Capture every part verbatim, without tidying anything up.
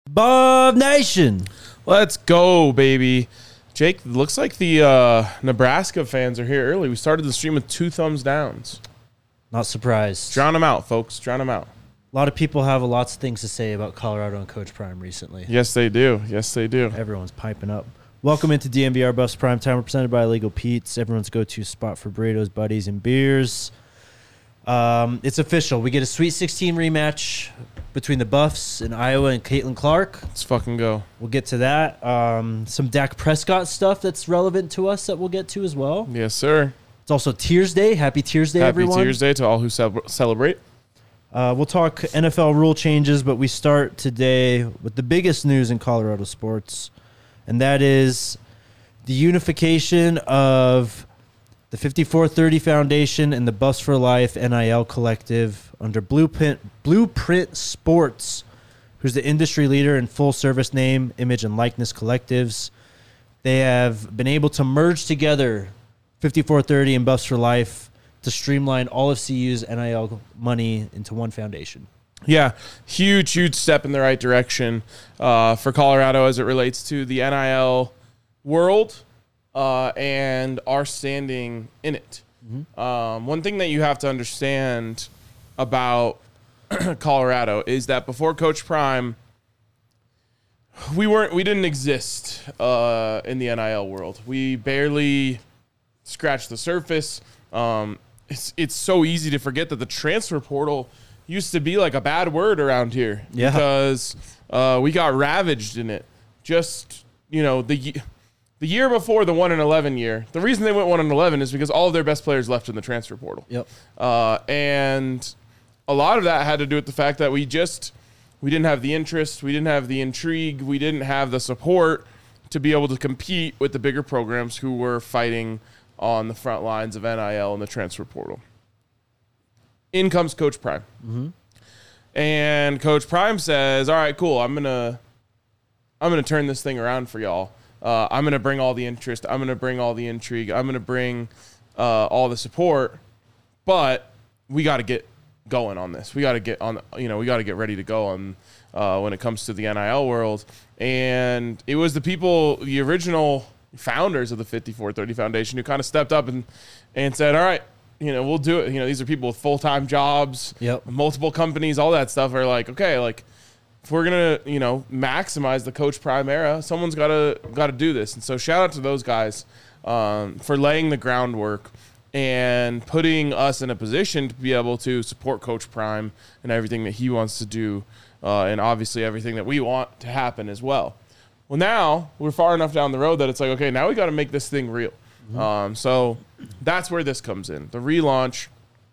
Buff Nation. Let's go, baby. Jake, looks like the uh, Nebraska fans are here early. We started the stream with two thumbs downs. Not surprised. Drown them out, folks. Drown them out. A lot of people have lots of things to say about Colorado and Coach Prime recently. Yes, they do. Yes, they do. Everyone's piping up. Welcome into D M V R Buffs Prime Time. We're presented by Illegal Pete's, everyone's go-to spot for burritos, buddies, and beers. Um, it's official. We get a Sweet sixteen rematch between the Buffs and Iowa and Caitlin Clark. Let's fucking go. We'll get to that. Um, some Dak Prescott stuff that's relevant to us that we'll get to as well. Yes, sir. It's also Tears Day. Happy Tears Day, Happy everyone. Happy Tears Day to all who ce- celebrate. Uh, we'll talk N F L rule changes, but we start today with the biggest news in Colorado sports, and that is the unification of the fifty-four thirty Foundation and the Buffs for Life N I L Collective under Blueprint, Blueprint Sports, who's the industry leader in full-service name, image, and likeness collectives. They have been able to merge together fifty-four thirty and Buffs for Life to streamline all of C U's N I L money into one foundation. Yeah, huge, huge step in the right direction uh, for Colorado as it relates to the N I L world uh, and our standing in it. Mm-hmm. Um, one thing that you have to understand about Colorado is that before Coach Prime, we weren't, we didn't exist uh, in the N I L world. We barely scratched the surface. Um, It's it's so easy to forget that the transfer portal used to be like a bad word around here. Yeah. Because uh, we got ravaged in it. Just, you know, the the year before the one and eleven year, the reason they went one and eleven is because all of their best players left in the transfer portal. Yep. Uh, and a lot of that had to do with the fact that we just we didn't have the interest, we didn't have the intrigue, we didn't have the support to be able to compete with the bigger programs who were fighting on the front lines of N I L and the transfer portal. In comes Coach Prime. Mm-hmm. And Coach Prime says, all right, cool, I'm going to I'm gonna turn this thing around for y'all. Uh, I'm going to bring all the interest. I'm going to bring all the intrigue. I'm going to bring uh, all the support. But we got to get going on this. We got to get on, you know, we got to get ready to go on uh, when it comes to the N I L world. And it was the people, the original founders of the fifty-four thirty Foundation who kind of stepped up and, and said, all right, you know, we'll do it. You know, these are people with full-time jobs, yep. multiple companies, all that stuff are like, okay, like if we're going to, you know, maximize the Coach Prime era, someone's got to, got to do this. And so shout out to those guys um, for laying the groundwork and putting us in a position to be able to support Coach Prime and everything that he wants to do. Uh, and obviously everything that we want to happen as well. Well, now we're far enough down the road that it's like, okay, now we got to make this thing real. Mm-hmm. Um, so that's where this comes in. The relaunch,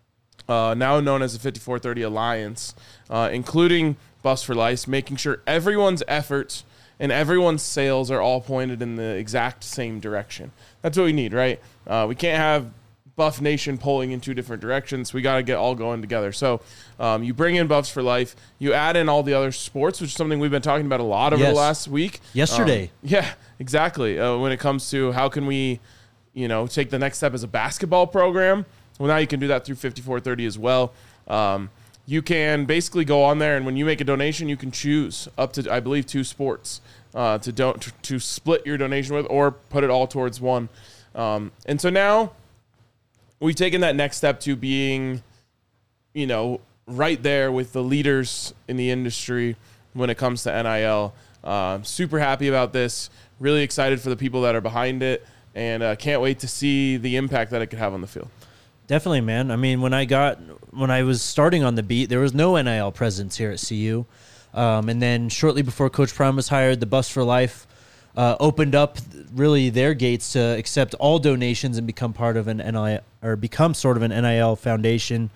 uh, now known as the fifty-four thirty Alliance, uh, including Buffs for Life, making sure everyone's efforts and everyone's sales are all pointed in the exact same direction. That's what we need, right? Uh, we can't have Buff Nation pulling in two different directions. We got to get all going together. So um, you bring in Buffs for Life. You add in all the other sports, which is something we've been talking about a lot over yes. the last week. Yesterday. Um, yeah, exactly. Uh, when it comes to how can we, you know, take the next step as a basketball program. Well, now you can do that through fifty-four thirty as well. Um, you can basically go on there, and when you make a donation, you can choose up to, I believe, two sports uh, to, don't, to, to split your donation with or put it all towards one. Um, and so now we've taken that next step to being, you know, right there with the leaders in the industry when it comes to N I L. Uh, super happy about this. Really excited for the people that are behind it, and uh, can't wait to see the impact that it could have on the field. Definitely, man. I mean, when I got when I was starting on the beat, there was no N I L presence here at C U, um, and then shortly before Coach Prime was hired, the Buffs for Life Uh, opened up really their gates to accept all donations and become part of an N I L or become sort of an N I L foundation.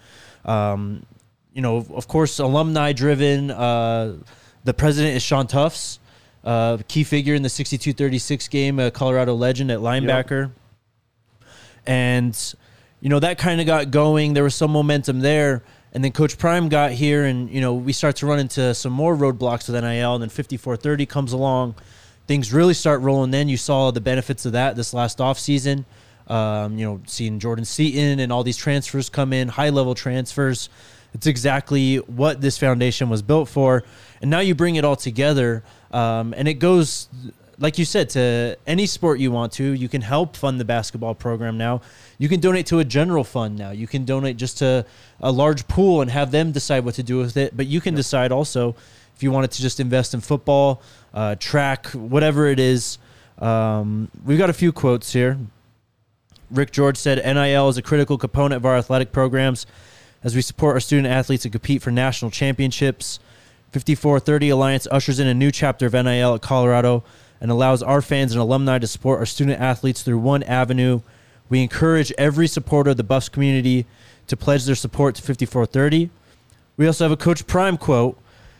Um, you know, of course, alumni driven. Uh, the president is Sean Tufts, uh, key figure in the sixty-two thirty-six game, a Colorado legend at linebacker. Yep. And, you know, that kind of got going. There was some momentum there. And then Coach Prime got here and, you know, we start to run into some more roadblocks with N I L. And then fifty-four thirty comes along. Things really start rolling. Then you saw the benefits of that this last offseason. Um, you know, seeing Jordan Seaton and all these transfers come in, high-level transfers. It's exactly what this foundation was built for. And now you bring it all together, um, and it goes, like you said, to any sport you want to. You can help fund the basketball program now. You can donate to a general fund now. You can donate just to a large pool and have them decide what to do with it. But you can decide also if you wanted to just invest in football, uh, track, whatever it is. Um, we've got a few quotes here. Rick George said, N I L is a critical component of our athletic programs as we support our student athletes to compete for national championships. fifty-four thirty Alliance ushers in a new chapter of N I L at Colorado and allows our fans and alumni to support our student athletes through one avenue. We encourage every supporter of the Buffs community to pledge their support to fifty-four thirty. We also have a Coach Prime quote.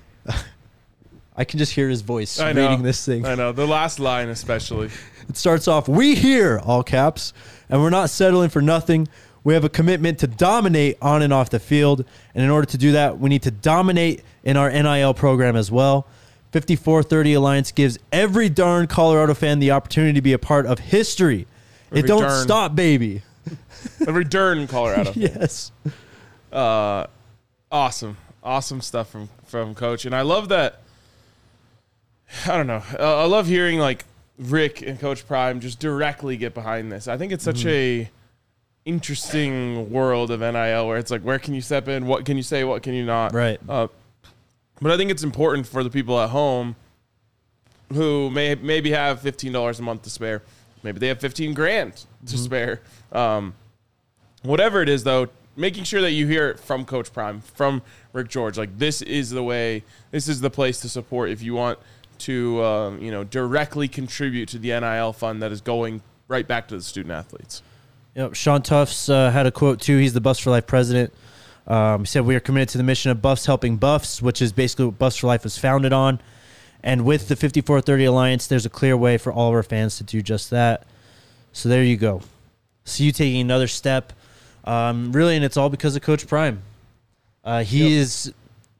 I can just hear his voice I know, reading this thing. I know. The last line especially. It starts off, we here, all caps, and we're not settling for nothing. We have a commitment to dominate on and off the field, and in order to do that, we need to dominate in our N I L program as well. fifty-four thirty Alliance gives every darn Colorado fan the opportunity to be a part of history. Every it don't darn. stop, baby. Every darn Colorado. Yes. Uh, awesome. Awesome stuff from, from Coach. And I love that. I don't know. Uh, I love hearing like Rick and Coach Prime just directly get behind this. I think it's such mm-hmm. a interesting world of N I L where it's like, where can you step in? What can you say? What can you not? Right. Uh, but I think it's important for the people at home who may maybe have fifteen dollars a month to spare. Maybe they have fifteen grand to mm-hmm. spare. Um, whatever it is, though, making sure that you hear it from Coach Prime, from Rick George. Like, this is the way, this is the place to support if you want to, um, you know, directly contribute to the N I L fund that is going right back to the student athletes. Yep. Sean Tufts uh, had a quote, too. He's the Buffs for Life president. Um, he said, we are committed to the mission of Buffs helping Buffs, which is basically what Buffs for Life was founded on. And with the fifty-four thirty Alliance, there's a clear way for all of our fans to do just that. So there you go. See you taking another step. Um, really, and it's all because of Coach Prime. Uh, he yep. is,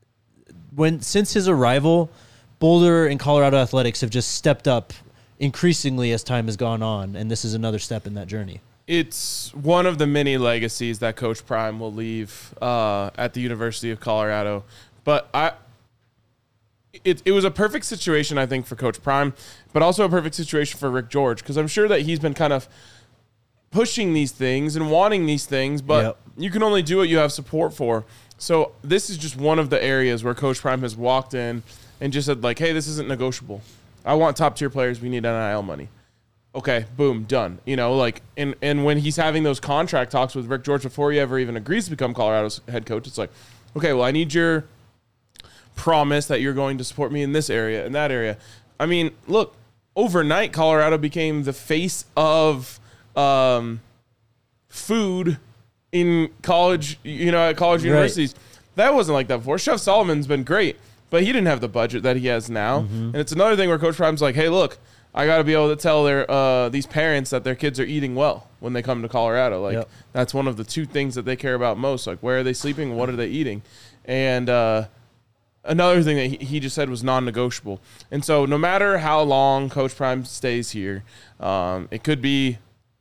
when since his arrival, Boulder and Colorado athletics have just stepped up increasingly as time has gone on, and this is another step in that journey. It's one of the many legacies that Coach Prime will leave uh, at the University of Colorado. But I, it, it was a perfect situation, I think, for Coach Prime, but also a perfect situation for Rick George, because I'm sure that he's been kind of pushing these things and wanting these things, but yep. you can only do what you have support for. So this is just one of the areas where Coach Prime has walked in and just said, like, hey, this isn't negotiable. I want top-tier players. We need N I L money. Okay, boom, done. You know, like, and, and when he's having those contract talks with Rick George before he ever even agrees to become Colorado's head coach, it's like, okay, well, I need your promise that you're going to support me in this area and that area. I mean, look, overnight, Colorado became the face of um, food in college, you know, at college right. universities. That wasn't like that before. Chef Solomon's been great, but he didn't have the budget that he has now. Mm-hmm. And it's another thing where Coach Prime's like, hey, look, I got to be able to tell their uh, these parents that their kids are eating well when they come to Colorado. Like, yep. that's one of the two things that they care about most. Like, where are they sleeping? What are they eating? And uh, another thing that he, he just said was non-negotiable. And so no matter how long Coach Prime stays here, um, it could be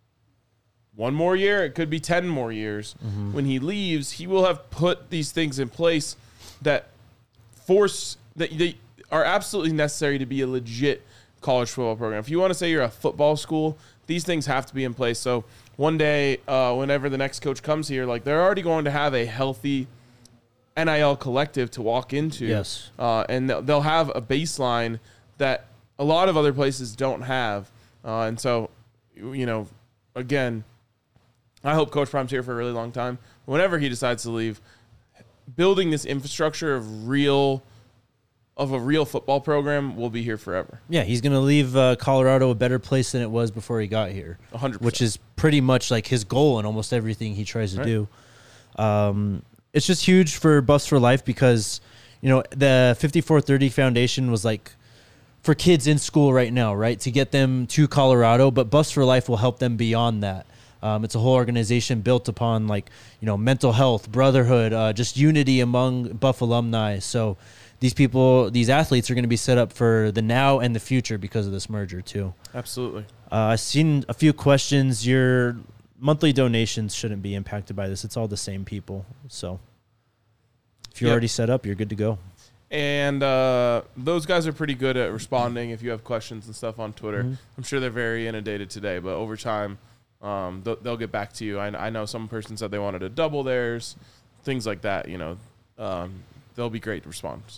one more year. It could be ten more years. Mm-hmm. When he leaves, he will have put these things in place that force that they are absolutely necessary to be a legit college football program. If you want to say you're a football school, these things have to be in place. So one day, uh, whenever the next coach comes here, like, they're already going to have a healthy N I L collective to walk into. Yes. Uh, and they'll have a baseline that a lot of other places don't have. Uh, and so, you know, again, I hope Coach Prime's here for a really long time. Whenever he decides to leave, building this infrastructure of real of a real football program will be here forever. Yeah, he's going to leave uh, Colorado a better place than it was before he got here. one hundred percent. Which is pretty much like his goal in almost everything he tries to right. do. Um, it's just huge for Buffs for Life because, you know, the fifty-four thirty Foundation was like for kids in school right now, right, to get them to Colorado, but Buffs for Life will help them beyond that. Um, it's a whole organization built upon, like, you know, mental health, brotherhood, uh, just unity among Buff alumni. So these people, these athletes are going to be set up for the now and the future because of this merger too. Absolutely. Uh, I've seen a few questions. Your monthly donations shouldn't be impacted by this. It's all the same people. So If you're Yep. already set up, you're good to go. And uh, those guys are pretty good at responding if you have questions and stuff on Twitter. Mm-hmm. I'm sure they're very inundated today, but over time, um, they'll, they'll get back to you. I, I know some person said they wanted to double theirs, things like that. You know, um, they'll be great response.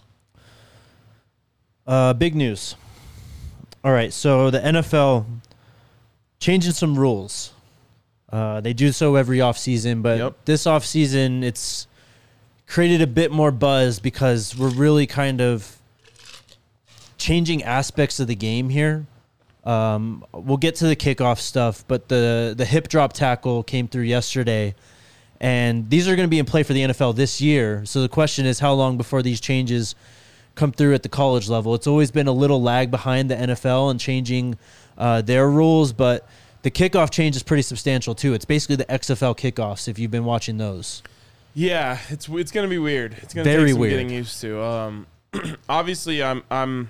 Uh, big news. All right, so the N F L changing some rules. Uh, they do so every offseason, but Yep. this offseason it's created a bit more buzz because we're really kind of changing aspects of the game here. Um, we'll get to the kickoff stuff, but the, the hip drop tackle came through yesterday, and these are going to be in play for the N F L this year. So the question is, how long before these changes come through at the college level? It's always been a little lag behind the N F L and changing uh, their rules, but the kickoff change is pretty substantial too. It's basically the X F L kickoffs if you've been watching those. Yeah, it's it's gonna be weird. It's gonna Very take some weird. getting used to. Um, obviously, I'm I'm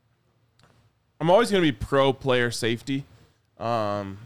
I'm always gonna be pro player safety, um,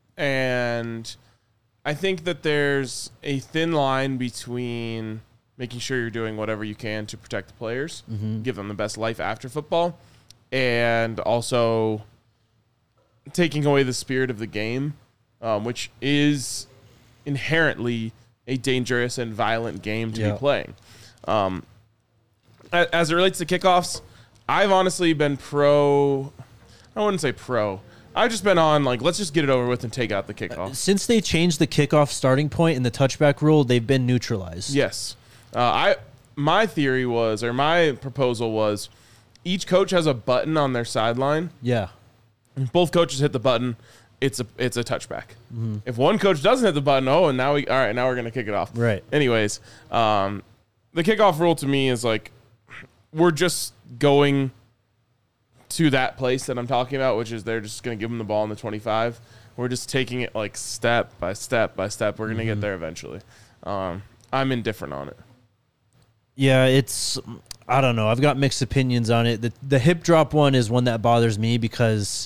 and I think that there's a thin line between making sure you're doing whatever you can to protect the players, give them the best life after football, and also taking away the spirit of the game, um, which is inherently a dangerous and violent game to Yeah. be playing. Um, a- as it relates to kickoffs, I've honestly been pro. I wouldn't say pro. I've just been on like, let's just get it over with and take out the kickoff. Since they changed the kickoff starting point and the touchback rule, they've been neutralized. Yes, uh, I. My theory was, or my proposal was, each coach has a button on their sideline. Yeah. If both coaches hit the button, it's a it's a touchback. If one coach doesn't hit the button, oh, and now we all right, now we're gonna kick it off. Right. Anyways, um, the kickoff rule to me is like we're just going to that place that I'm talking about, which is they're just gonna give them the ball in the twenty-five. We're just taking it like step by step by step. We're gonna get there eventually. Um, I'm indifferent on it. Yeah, it's I don't know. I've got mixed opinions on it. The the hip drop one is one that bothers me because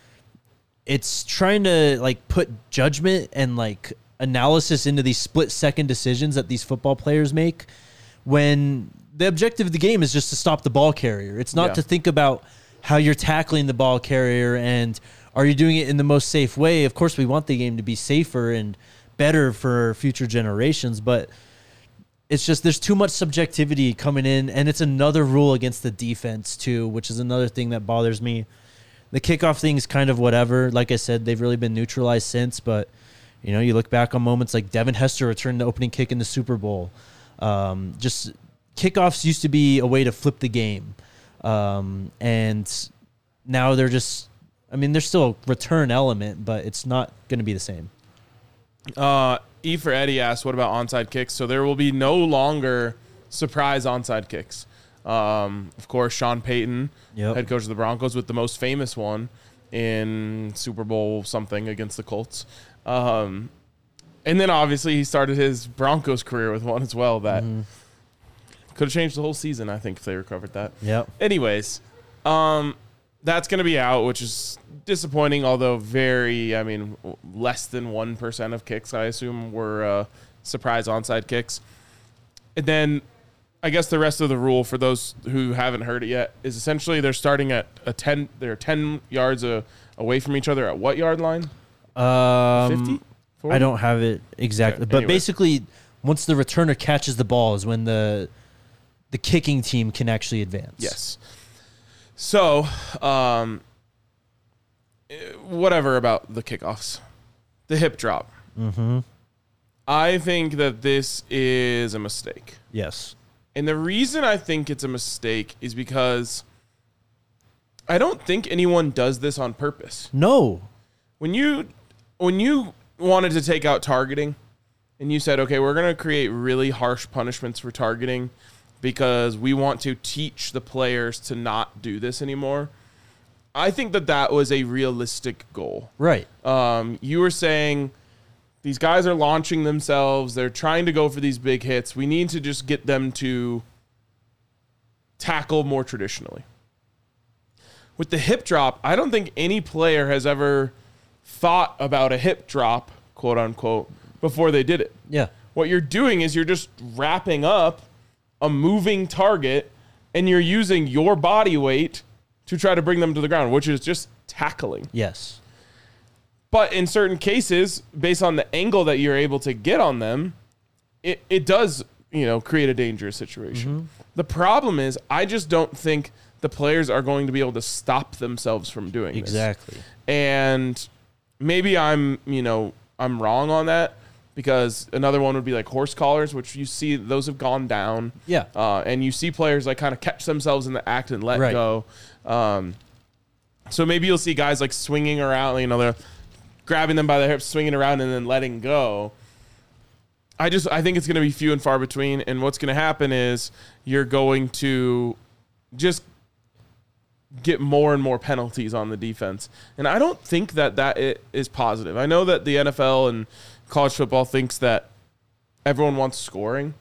it's trying to like put judgment and like analysis into these split second decisions that these football players make when the objective of the game is just to stop the ball carrier. It's not Yeah. to think about how you're tackling the ball carrier and are you doing it in the most safe way. Of course, we want the game to be safer and better for future generations, but it's just there's too much subjectivity coming in, and it's another rule against the defense too, which is another thing that bothers me. The kickoff thing is kind of whatever. Like I said, they've really been neutralized since, but you know, you look back on moments like Devin Hester returned the opening kick in the Super Bowl. Um, just kickoffs used to be a way to flip the game, um, and now they're just. I mean, there's still a return element, but it's not going to be the same. Uh, E for Eddie asked, what about onside kicks? So there will be no longer surprise onside kicks. Um, of course, Sean Payton, Yep. head coach of the Broncos, with the most famous one in Super Bowl something against the Colts. Um, and then obviously he started his Broncos career with one as well that Mm-hmm. could have changed the whole season, I think, if they recovered that. Yep. Anyways, um, that's going to be out, which is disappointing, although very, I mean, less than one percent of kicks, I assume, were uh, surprise onside kicks. And then I guess the rest of the rule, for those who haven't heard it yet, is essentially they're starting at a ten, they're ten yards a, away from each other at what yard line? Um, fifty? I don't have it exactly, Okay, but anyways. basically, once the returner catches the ball, is when the the kicking team can actually advance. Yes. So, um, eh, whatever about the kickoffs, the hip drop. Mm-hmm. I think that this is a mistake. Yes. And the reason I think it's a mistake is because I don't think anyone does this on purpose. No. When you when you wanted to take out targeting and you said, okay, we're going to create really harsh punishments for targeting because we want to teach the players to not do this anymore, I think that that was a realistic goal. Right. Um, you were saying these guys are launching themselves. They're trying to go for these big hits. We need to just get them to tackle more traditionally. With the hip drop, I don't think any player has ever thought about a hip drop, quote unquote, before they did it. Yeah. What you're doing is you're just wrapping up a moving target and you're using your body weight to try to bring them to the ground, which is just tackling. Yes. But in certain cases, based on the angle that you're able to get on them, it, it does, you know, create a dangerous situation. Mm-hmm. The problem is I just don't think the players are going to be able to stop themselves from doing exactly. this. Exactly. And maybe I'm, you know, I'm wrong on that, because another one would be like horse collars, which you see those have gone down. Yeah. Uh, and you see players like kind of catch themselves in the act and let right. go. Um, so maybe you'll see guys like swinging around, you know, they're grabbing them by the hips, swinging around, and then letting go. I just I think it's going to be few and far between. And what's going to happen is you're going to just get more and more penalties on the defense. And I don't think that that it is positive. I know that the N F L and college football thinks that everyone wants scoring.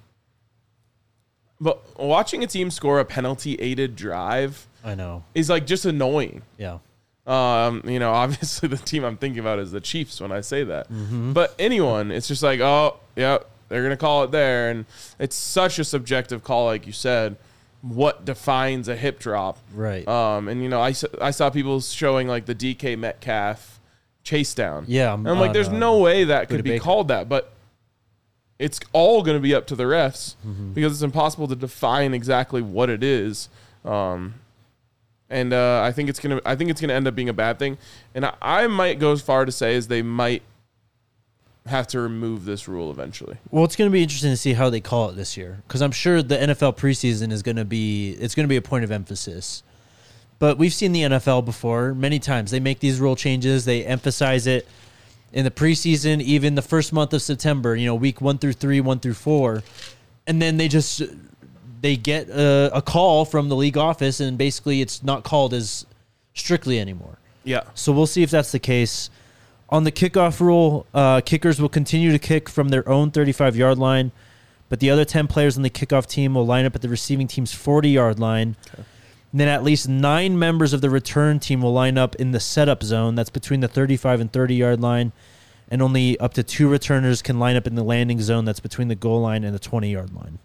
But watching a team score a penalty-aided drive I know. is like just annoying. Yeah. Um, you know, obviously the team I'm thinking about is the Chiefs when I say that. Mm-hmm. But anyone, it's just like, oh, yeah, they're going to call it there. And it's such a subjective call, like you said. What defines a hip drop? Right. Um, and, you know, I, I saw people showing like the D K Metcalf chase down. Yeah. And I'm like, there's uh, no way that could be Baker. called that. But it's all going to be up to the refs mm-hmm. because it's impossible to define exactly what it is. Um, and uh, I think it's gonna. I think it's gonna end up being a bad thing. And I, I might go as far to say as they might have to remove this rule eventually. Well, it's going to be interesting to see how they call it this year, because I'm sure the N F L preseason is going to be. It's going to be a point of emphasis. But we've seen the N F L before many times. They make these rule changes. They emphasize it in the preseason, even the first month of September. You know, week one through three, one through four, and then they just. They get a, a call from the league office, and basically it's not called as strictly anymore. Yeah. So we'll see if that's the case. On the kickoff rule, uh, kickers will continue to kick from their own thirty-five-yard line, but the other ten players on the kickoff team will line up at the receiving team's forty-yard line. Okay. And then at least nine members of the return team will line up in the setup zone. That's between the thirty-five and thirty-yard line. And only up to two returners can line up in the landing zone. That's between the goal line and the twenty-yard line.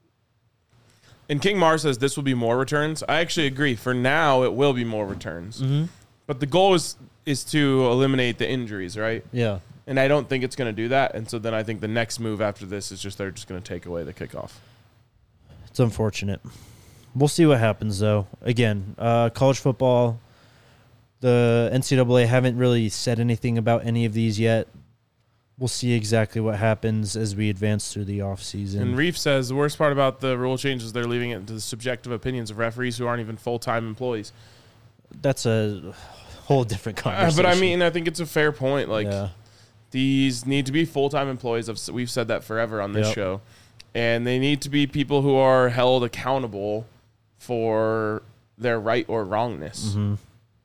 And King Mar says this will be more returns. I actually agree. For now, it will be more returns. Mm-hmm. But the goal is is to eliminate the injuries, right? Yeah. And I don't think it's going to do that. And so then I think the next move after this is just they're just going to take away the kickoff. It's unfortunate. We'll see what happens, though. Again, uh, college football, the N C double A haven't really said anything about any of these yet. We'll see exactly what happens as we advance through the offseason. And Reef says the worst part about the rule change is they're leaving it to the subjective opinions of referees who aren't even full-time employees. That's a whole different conversation. Uh, but I mean, I think it's a fair point. Like, yeah. These need to be full-time employees. We've said that forever on this yep. show. And they need to be people who are held accountable for their right or wrongness. Mm-hmm.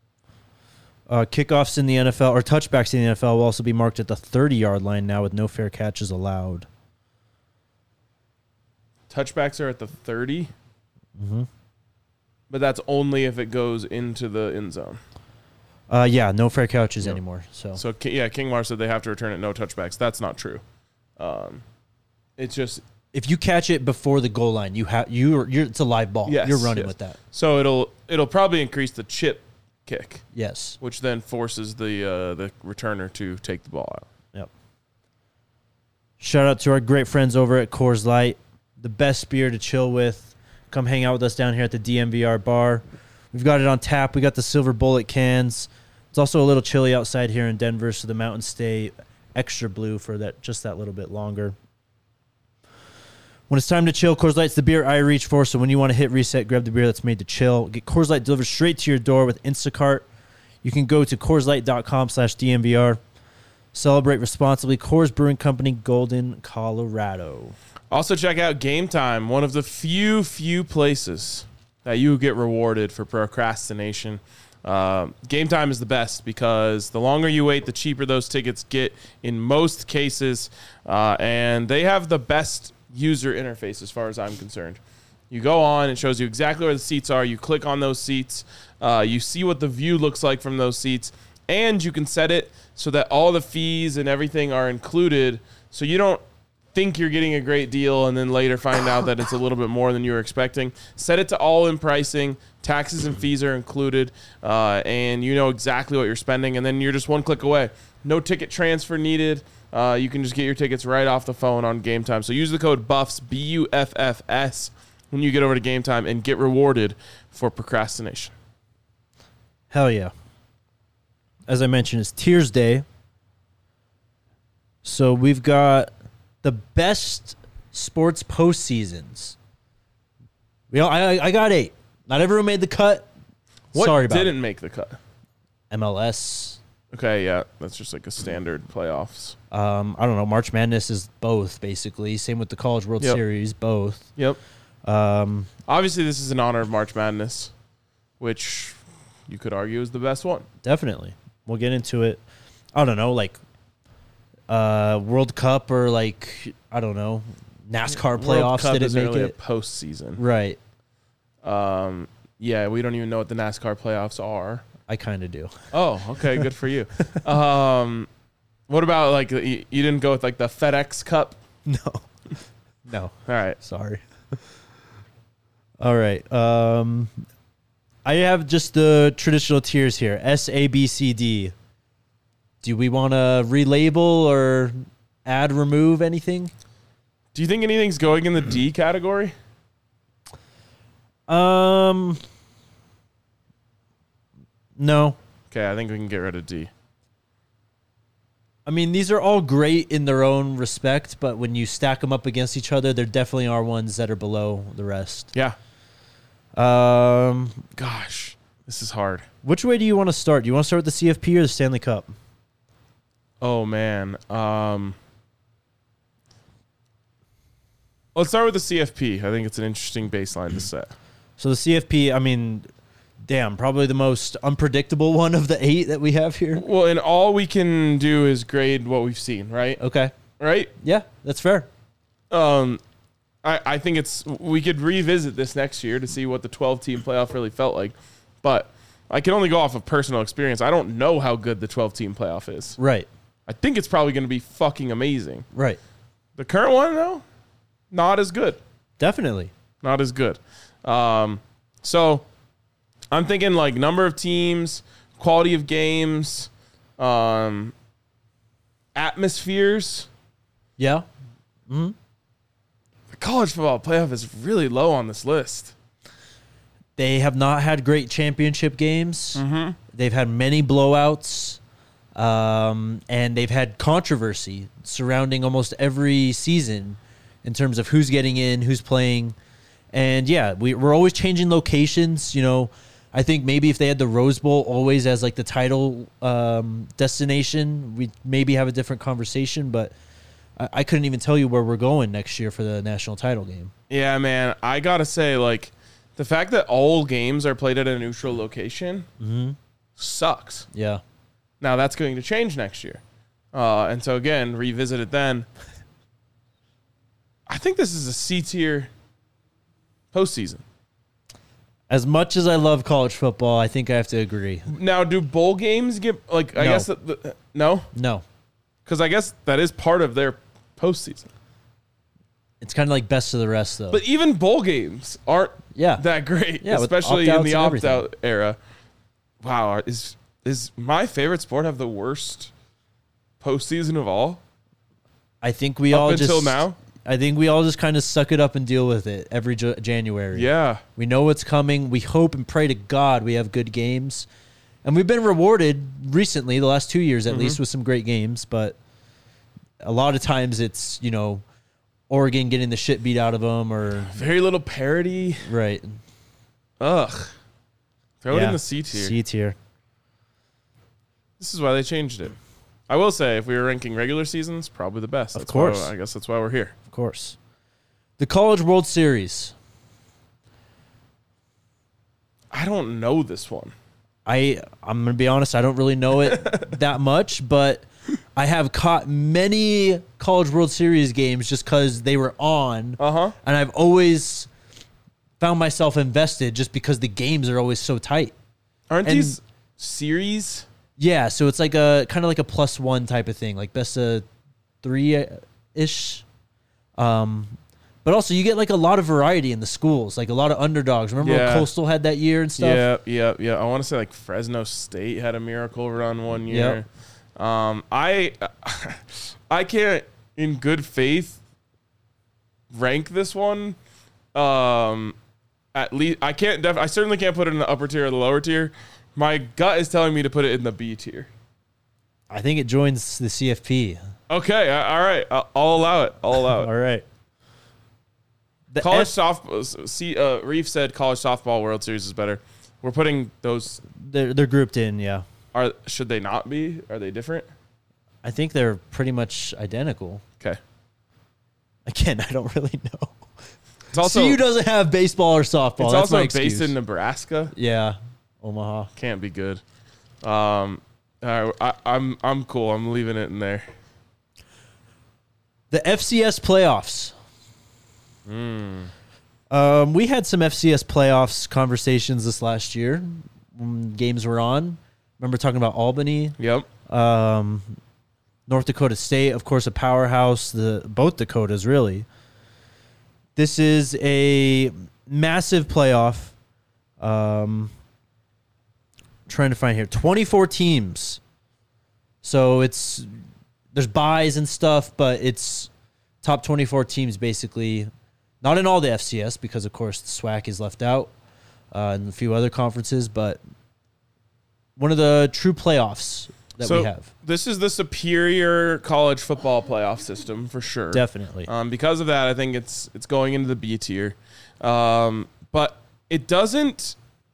Uh, kickoffs in the N F L, or touchbacks in the N F L, will also be marked at the thirty-yard line now with no fair catches allowed. Touchbacks are at the thirty? Mm-hmm. But that's only if it goes into the end zone. Uh, yeah, no fair catches yep. anymore. So, so yeah, King Mar said they have to return it no touchbacks. That's not true. Um, it's just... If you catch it before the goal line, you have you you're it's a live ball. Yes, you're running yes. with that. So it'll it'll probably increase the chip kick. Yes. Which then forces the uh, the returner to take the ball out. Yep. Shout out to our great friends over at Coors Light, the best beer to chill with. Come hang out with us down here at the D M V R bar. We've got it on tap. We got the silver bullet cans. It's also a little chilly outside here in Denver, so the mountains stay extra blue for that just that little bit longer. When it's time to chill, Coors Light's the beer I reach for, so when you want to hit reset, grab the beer that's made to chill. Get Coors Light delivered straight to your door with Instacart. You can go to CoorsLight.com slash DMVR. Celebrate responsibly. Coors Brewing Company, Golden, Colorado. Also check out Game Time, one of the few, few places that you get rewarded for procrastination. Uh, Game Time is the best because the longer you wait, the cheaper those tickets get in most cases. Uh, and they have the best user interface as far as I'm concerned. You go on, it shows you exactly where the seats are. You click on those seats. Uh, you see what the view looks like from those seats. And you can set it so that all the fees and everything are included so you don't think you're getting a great deal and then later find out that it's a little bit more than you were expecting. Set it to all in pricing. Taxes and fees are included, uh, and you know exactly what you're spending, and then you're just one click away. No ticket transfer needed. Uh, you can just get your tickets right off the phone on Game Time. So use the code BUFFS, B U F F S, when you get over to Game Time and get rewarded for procrastination. Hell yeah. As I mentioned, it's Tiers Day. So we've got the best sports postseasons. You know, I I got eight. Not everyone made the cut. What Sorry about didn't it. make the cut? M L S. Okay, yeah, that's just like a standard playoffs. Um, I don't know. March Madness is both, basically. Same with the College World Yep. Series, both. Yep. Um, Obviously, this is in honor of March Madness, which you could argue is the best one. definitely. We'll get into it. I don't know, like uh, World Cup or like, I don't know, NASCAR World playoffs Cup didn't isn't make really it. a postseason. Right. Um, yeah, we don't even know what the NASCAR playoffs are. I kind of do. Oh, okay, good for you. Um, what about like you, you didn't go with like the FedEx Cup? No. No. All right. Sorry. All right. Um, I have just the traditional tiers here. S, A, B, C, D. Do we want to relabel or add, remove anything? Do you think anything's going in the D category? Um, no. Okay, I think we can get rid of D. I mean, these are all great in their own respect, but when you stack them up against each other, there definitely are ones that are below the rest. Yeah. Um, Gosh, this is hard. which way do you want to start? Do you want to start with the C F P or the Stanley Cup? Oh man. Um, let's start with the C F P. I think it's an interesting baseline to set. So the C F P, I mean, damn, probably the most unpredictable one of the eight that we have here. Well, and all we can do is grade what we've seen, right? Okay. Right? Yeah, that's fair. Um, I, I think it's we could revisit this next year to see what the twelve-team playoff really felt like. But I can only go off of personal experience. I don't know how good the twelve-team playoff is. Right. I think it's probably going to be fucking amazing. Right. The current one, though, not as good. Definitely. Not as good. Um, so I'm thinking like number of teams, quality of games, um, atmospheres. Yeah. The college football playoff is really low on this list. They have not had great championship games. Mm-hmm. They've had many blowouts. Um, and they've had controversy surrounding almost every season in terms of who's getting in, who's playing. And yeah, we, we're always changing locations. You know, I think maybe if they had the Rose Bowl always as like the title um, destination, we'd maybe have a different conversation. But I, I couldn't even tell you where we're going next year for the national title game. Yeah, man. I got to say, like, the fact that all games are played at a neutral location Mm-hmm. sucks. Yeah. Now, that's going to change next year. Uh, and so, again, revisit it then. I think this is a C-tier postseason. As much as I love college football, I think I have to agree. Now, do bowl games get, like, I No. guess, that the, no? No. Because I guess that is part of their postseason. It's kind of like best of the rest, though. But even bowl games aren't yeah. that great, Yeah, with especially in opt-outs the and everything. opt-out era. Wow, is is my favorite sport have the worst postseason of all? I think we Up all until just, now? I think we all just kind of suck it up and deal with it every J- January. Yeah. We know what's coming. We hope and pray to God we have good games. And we've been rewarded recently, the last two years at Mm-hmm. least, with some great games. But a lot of times it's, you know, Oregon getting the shit beat out of them or. Very little parity. Right. Ugh. Throw it Yeah. in the C tier. C tier. This is why they changed it. I will say, if we were ranking regular seasons, probably the best. Of That's course. Why, I guess that's why we're here. Of course. The College World Series. I don't know this one. I I'm gonna be honest, I don't really know it that much, but I have caught many College World Series games just because they were on, Uh-huh. and I've always found myself invested just because the games are always so tight. Aren't And- these series? Yeah, so it's like a kind of like a plus one type of thing, like best of three ish. Um, but also you get like a lot of variety in the schools, like a lot of underdogs. Remember Yeah. when Coastal had that year and stuff? Yeah, yeah, yeah. I want to say like Fresno State had a miracle run one year. Um, I I can't, in good faith, rank this one. Um, at least I can't. Def- I certainly can't put it in the upper tier or the lower tier. My gut is telling me to put it in the B tier. I think it joins the C F P. Okay, uh, all right. I'll, I'll allow it. I'll allow it. All right. The College F- softball. See, uh, Reef said college softball World Series is better. We're putting those. they're, they're grouped in, yeah. Are should they not be? Are they different? I think they're pretty much identical. Okay. Again, I don't really know. It's also C U doesn't have baseball or softball. it's That's also my based excuse. in Nebraska. Yeah, Omaha. Can't be good. Um, all right, I, I'm I'm cool. I'm leaving it in there. The F C S playoffs. Mm. Um, we had some F C S playoffs conversations this last year when games were on. Remember talking about Albany, Yep. um, North Dakota State, of course, a powerhouse. The both Dakotas, really. This is a massive playoff. Um, trying to find here, twenty-four teams. So it's there's buys and stuff, but it's top twenty-four teams basically. Not in all the F C S because, of course, the SWAC is left out uh, and a few other conferences, but one of the true playoffs that so we have. This is the superior college football playoff system for sure. Definitely. Um, because of that, I think it's it's going into the B tier. Um, but it doesn't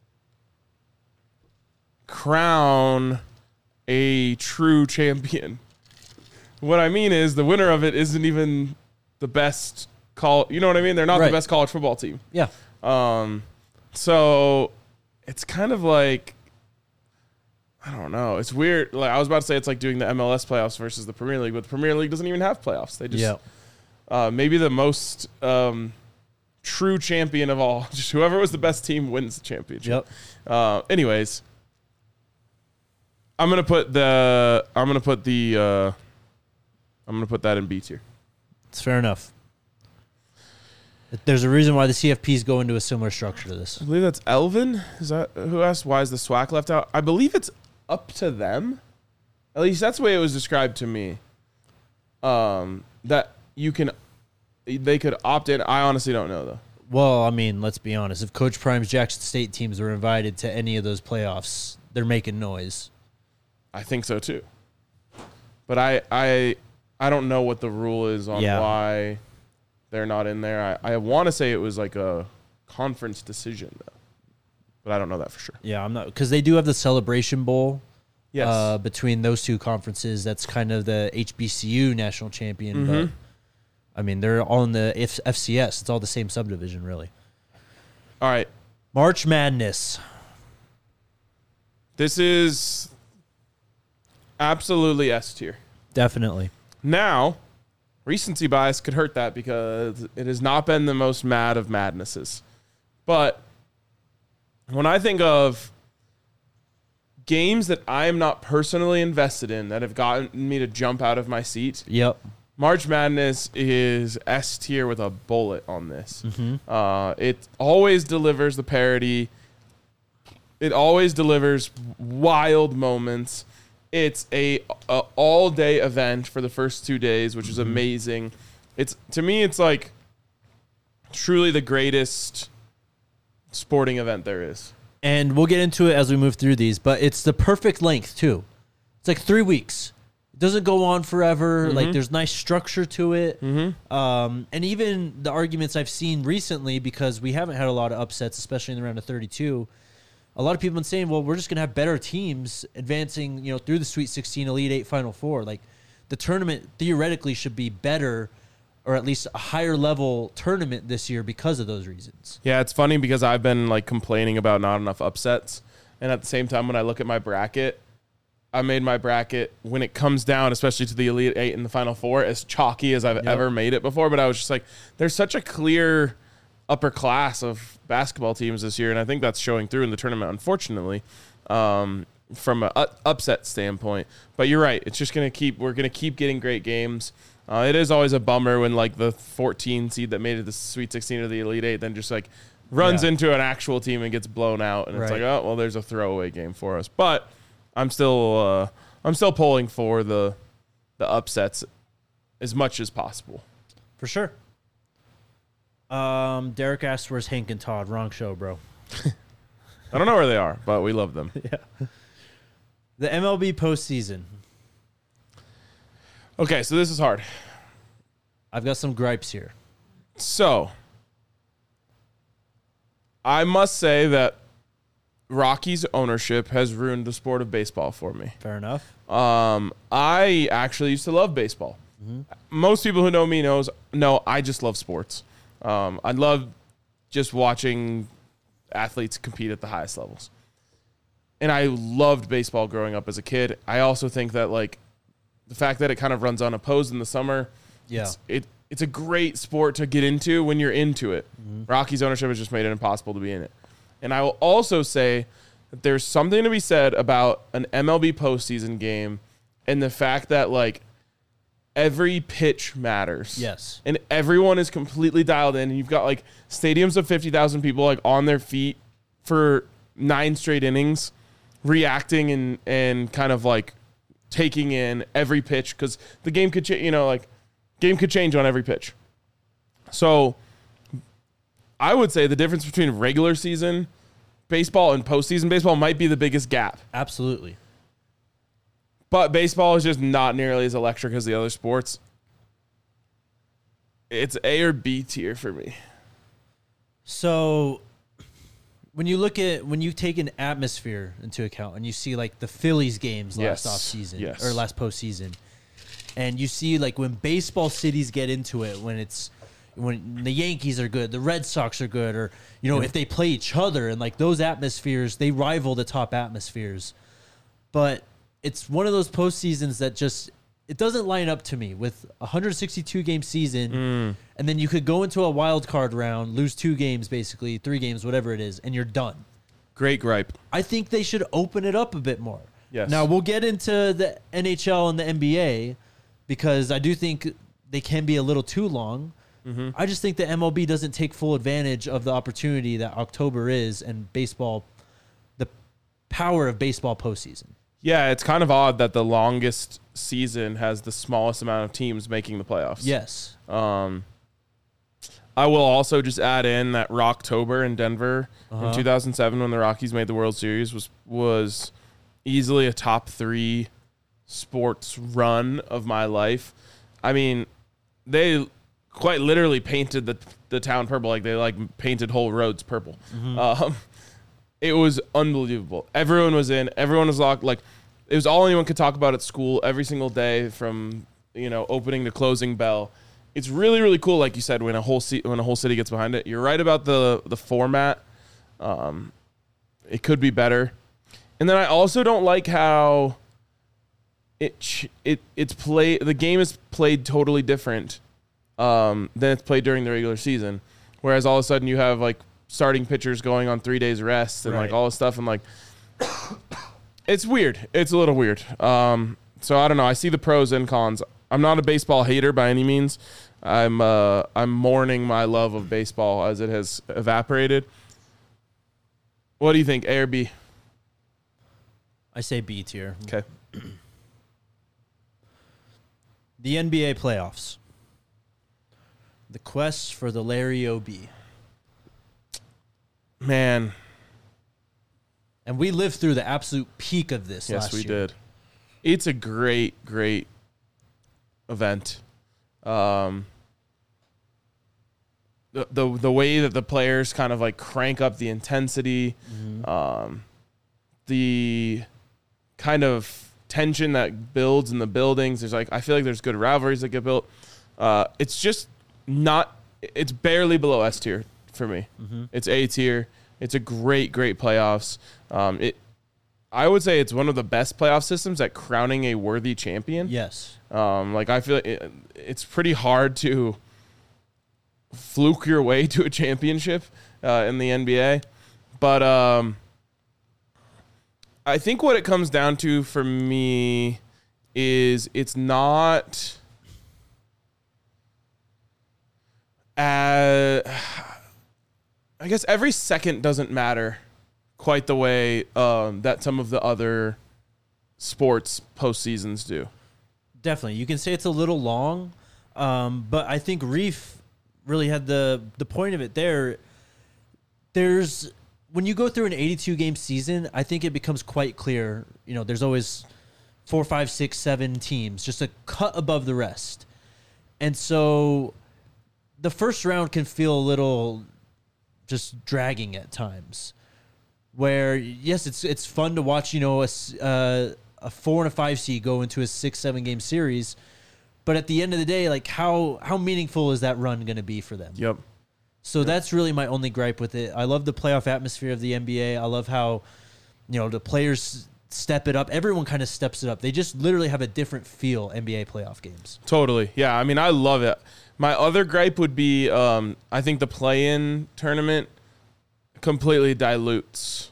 crown a true champion. What I mean is the winner of it isn't even the best call. You know what I mean? They're not Right. the best college football team. Yeah. Um, so it's kind of like, I don't know. It's weird. Like I was about to say, it's like doing the M L S playoffs versus the Premier League, but the Premier League doesn't even have playoffs. They just, Yeah. uh, maybe the most um, true champion of all, just whoever was the best team wins the championship. Yep. Uh, anyways, I'm gonna put the I'm gonna put the uh, I'm gonna put that in B tier. It's fair enough. There's a reason why the C F Ps go into a similar structure to this. I believe that's Elvin. Is that who asked why is the SWAC left out? I believe it's up to them. At least that's the way it was described to me. Um, that you can, they could opt in. I honestly don't know though. Well, I mean, let's be honest. If Coach Prime's Jackson State teams were invited to any of those playoffs, they're making noise. I think so too. But I I I don't know what the rule is on Yeah. why they're not in there. I, I want to say it was like a conference decision though, but I don't know that for sure. Yeah, I'm not because they do have the Celebration Bowl. Yes. Uh, between those two conferences, that's kind of the H B C U national champion. Mm-hmm. But I mean, they're all in the F- FCS. It's all the same subdivision, really. All right. March Madness. This is absolutely S tier. Definitely. Now, recency bias could hurt that because it has not been the most mad of madnesses. But when I think of games that I am not personally invested in that have gotten me to jump out of my seat, Yep. March Madness is S tier with a bullet on this. Mm-hmm. Uh, it always delivers the parody. It always delivers wild moments. It's a, a all day event for the first two days, which is amazing. It's to me, it's like truly the greatest sporting event there is. And we'll get into it as we move through these, but it's the perfect length, too. It's like three weeks. It doesn't go on forever. Mm-hmm. Like, there's nice structure to it. Mm-hmm. Um, and even the arguments I've seen recently, because we haven't had a lot of upsets, especially in the round of thirty-two, a lot of people have been saying, well, we're just going to have better teams advancing, you know, through the Sweet sixteen, Elite Eight, Final Four. Like, the tournament theoretically should be better, or at least a higher level tournament this year because of those reasons. Yeah, it's funny because I've been like complaining about not enough upsets. And at the same time, when I look at my bracket, I made my bracket when it comes down, especially to the Elite Eight and the Final Four, as chalky as I've Yep. ever made it before. But I was just like, there's such a clear upper class of basketball teams this year. And I think that's showing through in the tournament, unfortunately, um, from an upset standpoint. But you're right. It's just going to keep, we're going to keep getting great games. Uh, it is always a bummer when like the fourteen seed that made it the Sweet sixteen or the Elite Eight then just like runs Yeah. into an actual team and gets blown out, and it's Right. like, oh well, there's a throwaway game for us. But I'm still uh, I'm still pulling for the the upsets as much as possible. For sure. Um, Derek asked, "Where's Hank and Todd?" Wrong show, bro. I don't know where they are, but we love them. Yeah. The M L B postseason. Okay, so this is hard. I've got some gripes here. So I must say that Rockies ownership has ruined the sport of baseball for me. Fair enough. Um, I actually used to love baseball. Mm-hmm. Most people who know me knows no, I just love sports. Um, I love just watching athletes compete at the highest levels. And I loved baseball growing up as a kid. I also think that like the fact that it kind of runs unopposed in the summer, Yeah. it's, it it's a great sport to get into when you're into it. Mm-hmm. Rockies ownership has just made it impossible to be in it. And I will also say that there's something to be said about an M L B postseason game and the fact that like every pitch matters. Yes. And everyone is completely dialed in. And you've got like stadiums of fifty thousand people like on their feet for nine straight innings, reacting and, and kind of like taking in every pitch because the game could change, you know, like game could change on every pitch. So I would say the difference between regular season baseball and postseason baseball might be the biggest gap. Absolutely. But baseball is just not nearly as electric as the other sports. It's A or B tier for me. So when you look at when you take an atmosphere into account and you see like the Phillies games last Yes. off season Yes. or last postseason, and you see like when baseball cities get into it, when it's when the Yankees are good, the Red Sox are good, or you know if they play each other and like those atmospheres, they rival the top atmospheres. But it's one of those postseasons that just it doesn't line up to me with a one hundred sixty-two game season, Mm. and then you could go into a wild card round, lose two games, basically three games, whatever it is, and you're done. Great gripe. I think they should open it up a bit more. Yes. Now we'll get into the N H L and the N B A because I do think they can be a little too long. Mm-hmm. I just think the M L B doesn't take full advantage of the opportunity that October is and baseball, the power of baseball postseason. Yeah, it's kind of odd that the longest season has the smallest amount of teams making the playoffs. Yes. Um, I will also just add in that Rocktober in Denver Uh-huh. in two thousand seven when the Rockies made the World Series was was easily a top three sports run of my life. I mean, they quite literally painted the the town purple, like they like painted whole roads purple. Um, it was unbelievable. Everyone was in. Everyone was locked. Like it was all anyone could talk about at school every single day from you know opening to closing bell. It's really really cool, like you said, when a whole ci- when a whole city gets behind it. You're right about the the format. Um, it could be better. And then I also don't like how it ch- it it's play the game is played totally different um, than it's played during the regular season. Whereas all of a sudden you have like starting pitchers going on three days rest and Right. like all this stuff and like it's weird. It's a little weird. Um, so I don't know. I see the pros and cons. I'm not a baseball hater by any means. I'm uh, I'm mourning my love of baseball as it has evaporated. What do you think, A or B? I say B tier. Okay. The N B A playoffs. The quest for the Larry O B. Man, And we lived through the absolute peak of this yes, last we year. did. It's a great, great event. Um, the, the the way that the players kind of like crank up the intensity, Mhm. um, the kind of tension that builds in the buildings. There's like I feel like there's good rivalries that get built. Uh, it's just not. It's barely below S tier for me. Mhm. It's A tier. It's a great, great playoffs. Um, it, I would say it's one of the best playoff systems at crowning a worthy champion. Yes. Um, like I feel like it, it's pretty hard to fluke your way to a championship uh, in the N B A, but um, I think what it comes down to for me is it's not uh, I guess every second doesn't matter quite the way um, that some of the other sports postseasons do. Definitely. You can say it's a little long, um, but I think Reef really had the, the point of it there. There's when you go through an eighty-two game season, I think it becomes quite clear, you know, there's always four, five, six, seven teams, just a cut above the rest. And so the first round can feel a little just dragging at times, where yes, it's it's fun to watch, you know, a, uh, a four and a five seed go into a six, seven game series. But at the end of the day, like how, how meaningful is that run going to be for them? Yep. So yep. That's really my only gripe with it. I love the playoff atmosphere of the N B A. I love how, you know, the players step it up. Everyone kind of steps it up. They just literally have a different feel, N B A playoff games. Totally. Yeah. I mean, I love it. My other gripe would be, um, I think the play-in tournament completely dilutes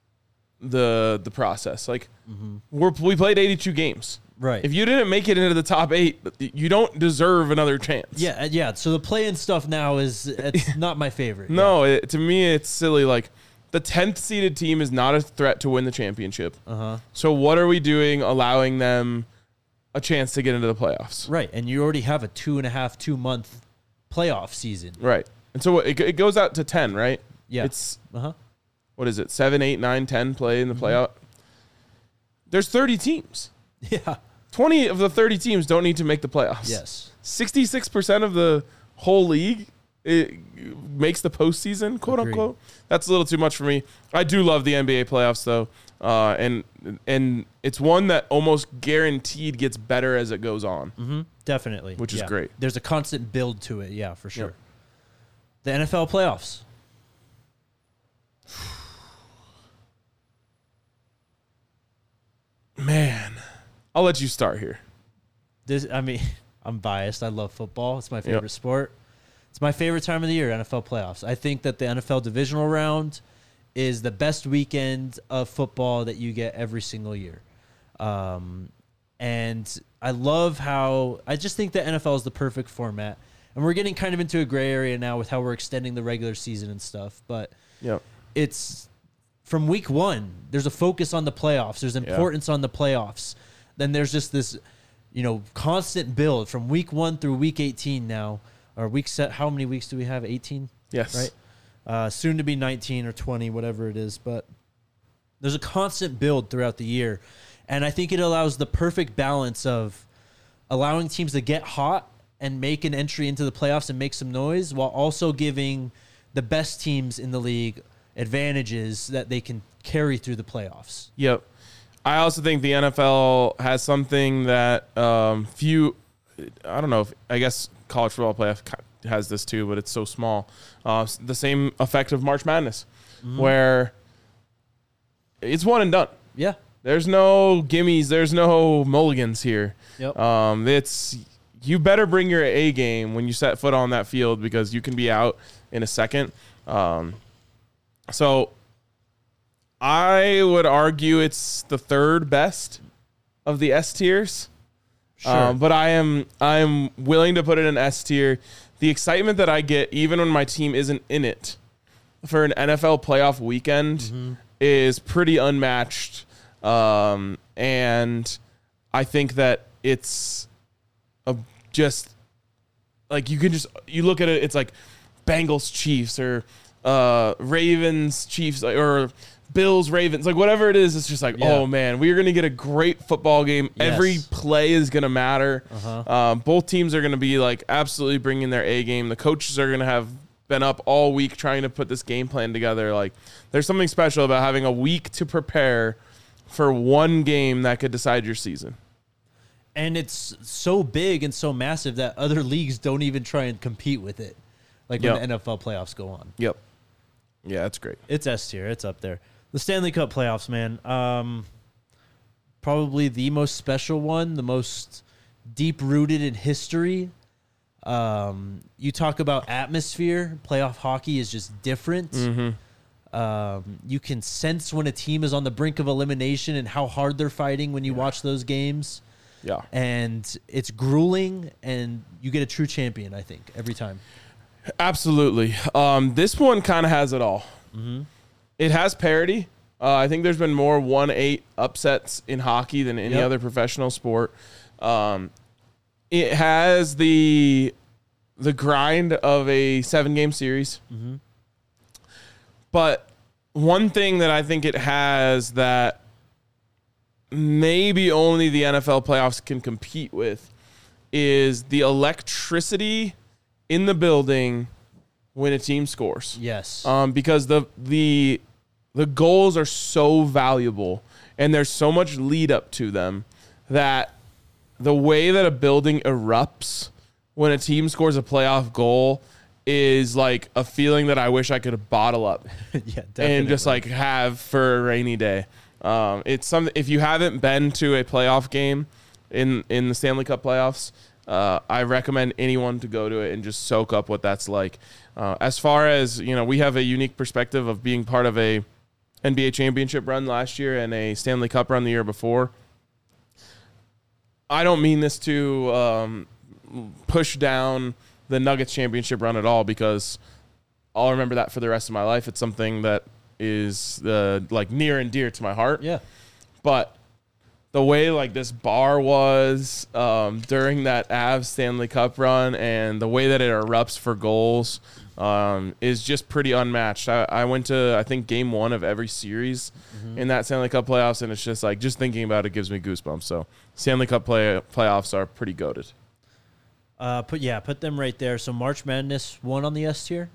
the the process. Like, mm-hmm. we're, we played eighty-two games. Right. If you didn't make it into the top eight, you don't deserve another chance. Yeah, yeah. So the play-in stuff now is it's not my favorite. No, yeah. it, to me, it's silly. Like, the tenth seeded team is not a threat to win the championship. Uh-huh. So what are we doing allowing them a chance to get into the playoffs? Right, and you already have a two and a half, two month playoff season. Right, and so it, it goes out to ten, right? Yeah. It's uh-huh. What is it? Seven, eight, nine, ten play in the mm-hmm. playoff. There's thirty teams. Yeah. twenty of the thirty teams don't need to make the playoffs. Yes. sixty-six percent of the whole league it makes the postseason, quote Agreed. unquote. That's a little too much for me. I do love the N B A playoffs, though, uh, and and it's one that almost guaranteed gets better as it goes on. Mm-hmm. Definitely, which yeah. is great. There's a constant build to it, yeah, for sure. Yep. The N F L playoffs. Man, I'll let you start here. This, I mean, I'm biased. I love football. It's my favorite yep. sport. It's my favorite time of the year, N F L playoffs. I think that the N F L divisional round is the best weekend of football that you get every single year. Um, and I love how, I just think the N F L is the perfect format. And we're getting kind of into a gray area now with how we're extending the regular season and stuff. But yep. it's from week one, there's a focus on the playoffs. There's importance yeah. on the playoffs. Then there's just this, you know, constant build from week one through week eighteen now. Or week set, how many weeks do we have? eighteen? Yes. Right? Uh, soon to be nineteen or twenty, whatever it is. But there's a constant build throughout the year. And I think it allows the perfect balance of allowing teams to get hot and make an entry into the playoffs and make some noise, while also giving the best teams in the league advantages that they can carry through the playoffs. Yep. I also think the N F L has something that um, few, I don't know, if, I guess college football playoff has this too, but it's so small. Uh, the same effect of March Madness, mm-hmm. where it's one and done. Yeah. There's no gimmies. There's no mulligans here. Yep. Um, it's you better bring your A game when you set foot on that field, because you can be out in a second. Um, so I would argue it's the third best of the S tiers. Sure. Um, but I am I am willing to put it in S tier. The excitement that I get, even when my team isn't in it, for an N F L playoff weekend mm-hmm. is pretty unmatched. Um, and I think that it's a, just like you can just you look at it. It's like Bengals Chiefs or uh, Ravens Chiefs or Bills Ravens, like whatever it is. It's just like, yeah. oh man, we are going to get a great football game. Yes. Every play is going to matter. Uh-huh. Um, both teams are going to be like absolutely bringing their A game. The coaches are going to have been up all week trying to put this game plan together. Like, there's something special about having a week to prepare for one game that could decide your season. And it's so big and so massive that other leagues don't even try and compete with it. Like when yep. the N F L playoffs go on. Yep. Yeah, that's great. It's S tier. It's up there. The Stanley Cup playoffs, man. Um, probably the most special one, the most deep-rooted in history. Um, you talk about atmosphere. Playoff hockey is just different. Mm-hmm. Um, you can sense when a team is on the brink of elimination and how hard they're fighting when you yeah. watch those games. Yeah. And it's grueling, and you get a true champion, I think, every time. Absolutely. Um, this one kind of has it all. Mm-hmm. It has parity. Uh, I think there's been more one eight upsets in hockey than any Yep. other professional sport. Um, it has the the grind of a seven game series. Mm-hmm. But one thing that I think it has that maybe only the N F L playoffs can compete with is the electricity in the building when a team scores. Yes. Um, because the the the goals are so valuable and there's so much lead up to them that the way that a building erupts when a team scores a playoff goal is like a feeling that I wish I could bottle up yeah, definitely. and just like have for a rainy day. Um, it's something, if you haven't been to a playoff game in, in the Stanley Cup playoffs, uh, I recommend anyone to go to it and just soak up what that's like. Uh, as far as, you know, we have a unique perspective of being part of a N B A championship run last year and a Stanley Cup run the year before. I don't mean this to um, push down the Nuggets championship run at all, because I'll remember that for the rest of my life. It's something that is uh, like near and dear to my heart. Yeah. But the way like this bar was um, during that Avs Stanley Cup run and the way that it erupts for goals um, is just pretty unmatched. I, I went to, I think, game one of every series mm-hmm. in that Stanley Cup playoffs, and it's just like, just thinking about it gives me goosebumps. So Stanley Cup play, playoffs are pretty goated. Uh, put yeah, put them right there. So March Madness one on the S tier.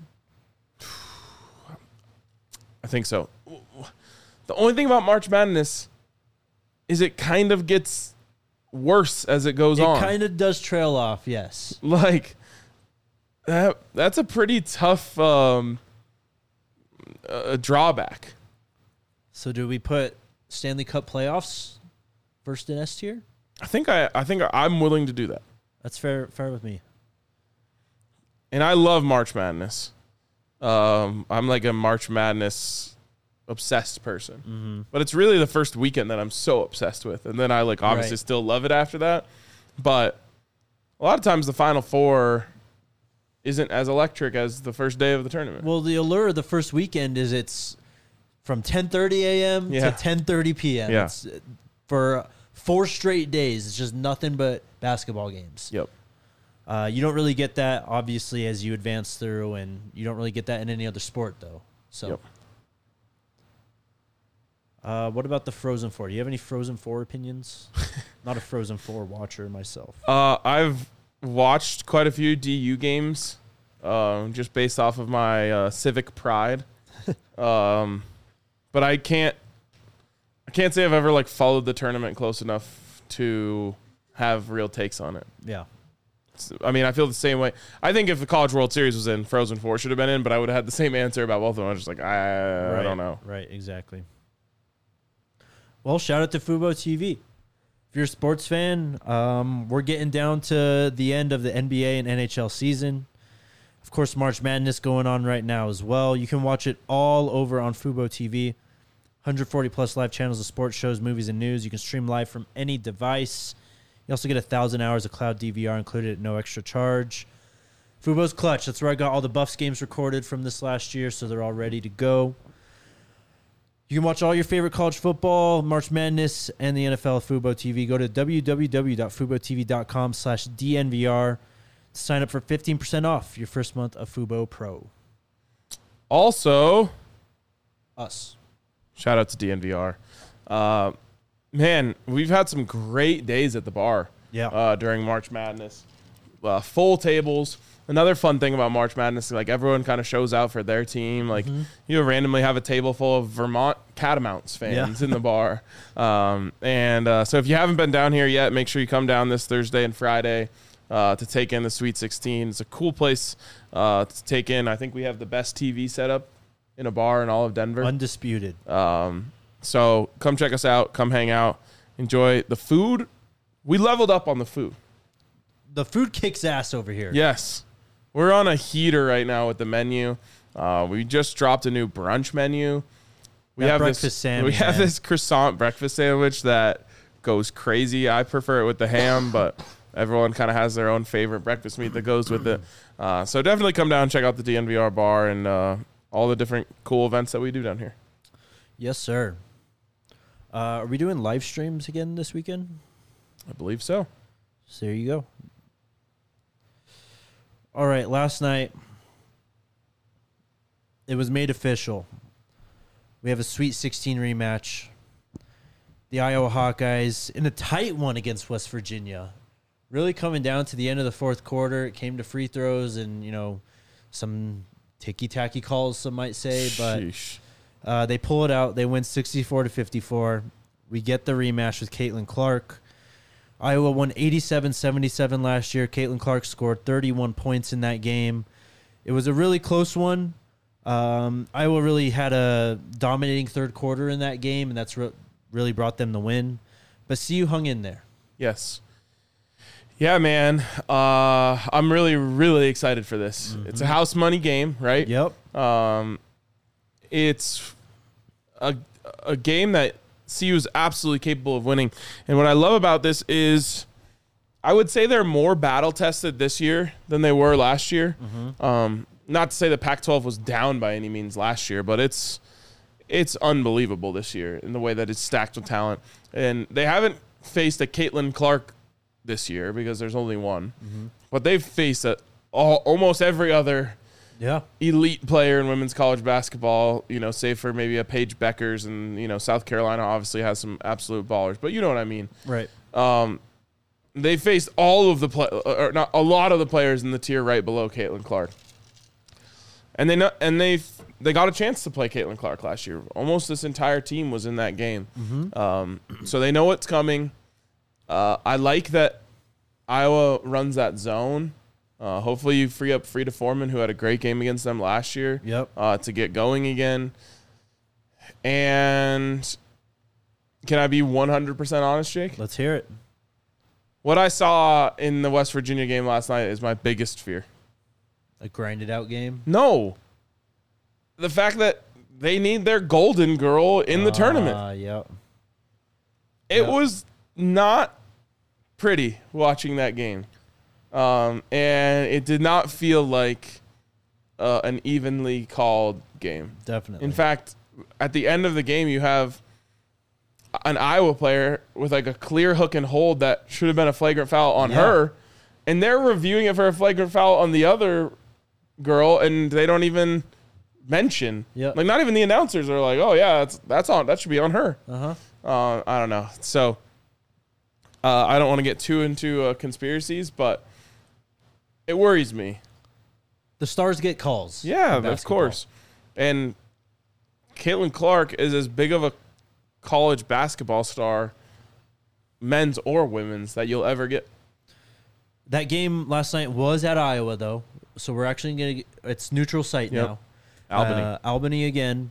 I think so. The only thing about March Madness is it kind of gets worse as it goes It on. It kind of does trail off, yes. Like that. That's a pretty tough um, uh, drawback. So do we put Stanley Cup playoffs first in S tier? I think I. I think I'm willing to do that. That's fair. Fair with me. And I love March Madness. Um, I'm like a March Madness obsessed person, mm-hmm. but it's really the first weekend that I'm so obsessed with, and then I like obviously right. still love it after that. But a lot of times the Final Four isn't as electric as the first day of the tournament. Well, the allure of the first weekend is it's from ten thirty a.m. Yeah. to ten thirty p.m. Yeah. It's for four straight days. It's just nothing but basketball games. Yep. Uh, you don't really get that, obviously, as you advance through, and you don't really get that in any other sport, though. So, Yep. uh, what about the Frozen Four? Do you have any Frozen Four opinions? Not a Frozen Four watcher myself. Uh, I've watched quite a few D U games, um, just based off of my uh, civic pride. um, but I can't, I can't say I've ever like followed the tournament close enough to have real takes on it. Yeah. I mean, I feel the same way. I think if the College World Series was in, Frozen Four should have been in, but I would have had the same answer about both of them. I was just like, I, right, I don't know. Right, exactly. Well, shout out to Fubo T V. If you're a sports fan, um, we're getting down to the end of the N B A and N H L season. Of course, March Madness going on right now as well. You can watch it all over on Fubo T V. one hundred forty plus live channels of sports shows, movies, and news. You can stream live from any device. You also get one thousand hours of cloud D V R included at no extra charge. Fubo's Clutch. That's where I got all the Buffs games recorded from this last year, so they're all ready to go. You can watch all your favorite college football, March Madness, and the N F L at Fubo T V. Go to www.fubotv.com slash DNVR to sign up for fifteen percent off your first month of Fubo Pro. Also, Us. shout out to D N V R. Uh, man, we've had some great days at the bar. Yeah. Uh, during March Madness, uh, full tables. Another fun thing about March Madness, like everyone kind of shows out for their team. Like mm-hmm. you randomly have a table full of Vermont Catamounts fans yeah. in the bar. Um, and uh, so if you haven't been down here yet, make sure you come down this Thursday and Friday uh, to take in the Sweet sixteen. It's a cool place uh, to take in. I think we have the best T V setup in a bar in all of Denver. Undisputed. Um, so come check us out. Come hang out. Enjoy the food. We leveled up on the food. The food kicks ass over here. Yes. We're on a heater right now with the menu. Uh, we just dropped a new brunch menu. We that have breakfast this. Sandwich, we have man. this croissant breakfast sandwich that goes crazy. I prefer it with the ham, but everyone kind of has their own favorite breakfast meat that goes with it. Uh, so definitely come down and check out the D N V R bar and uh, all the different cool events that we do down here. Yes, sir. Uh, are we doing live streams again this weekend? I believe so. So there you go. All right, last night it was made official. We have a Sweet sixteen rematch. The Iowa Hawkeyes in a tight one against West Virginia. Really coming down to the end of the fourth quarter. It came to free throws and, you know, some ticky-tacky calls, some might say. But uh, they pull it out. They win sixty-four to fifty-four. We get the rematch with Caitlin Clark. Iowa won eighty-seven seventy-seven last year. Caitlin Clark scored thirty-one points in that game. It was a really close one. Um, Iowa really had a dominating third quarter in that game, and that's re- really brought them the win. But C U hung in there. Yes. Yeah, man. Uh, I'm really, really excited for this. Mm-hmm. It's a house money game, right? Yep. Um, it's a a game that C U is absolutely capable of winning. And what I love about this is I would say they're more battle tested this year than they were last year. Mm-hmm. Um, not to say the Pac twelve was down by any means last year, but it's it's unbelievable this year in the way that it's stacked with talent. And they haven't faced a Caitlin Clark this year because there's only one. Mm-hmm. But they've faced a, all, almost every other yeah. elite player in women's college basketball, you know, save for maybe a Paige Beckers, and, you know, South Carolina obviously has some absolute ballers, but you know what I mean. Right. Um, they faced all of the play, or not a lot of the players in the tier right below Caitlin Clark. And they know, and they they got a chance to play Caitlin Clark last year. Almost this entire team was in that game. Mm-hmm. Um, so they know what's coming. Uh, I like that Iowa runs that zone. Uh, hopefully you free up Frida Foreman, who had a great game against them last year, yep. uh, to get going again. And can I be one hundred percent honest, Jake? Let's hear it. What I saw in the West Virginia game last night is my biggest fear. A grinded out game? No. The fact that they need their golden girl in the uh, tournament. Yep. It yep. was not pretty watching that game. Um, and it did not feel like uh, an evenly called game. Definitely. In fact, at the end of the game, you have an Iowa player with like a clear hook and hold that should have been a flagrant foul on yeah. her, and they're reviewing it for a flagrant foul on the other girl, and they don't even mention. Yep. Like, not even the announcers are like, "Oh yeah, that's that's on. That should be on her." Uh-huh. Uh I don't know. So uh, I don't want to get too into uh, conspiracies, but it worries me. The stars get calls. Yeah, of course. And Caitlin Clark is as big of a college basketball star, men's or women's, that you'll ever get. That game last night was at Iowa, though, so we're actually going to – it's neutral site yep. now. Albany. Uh, Albany again.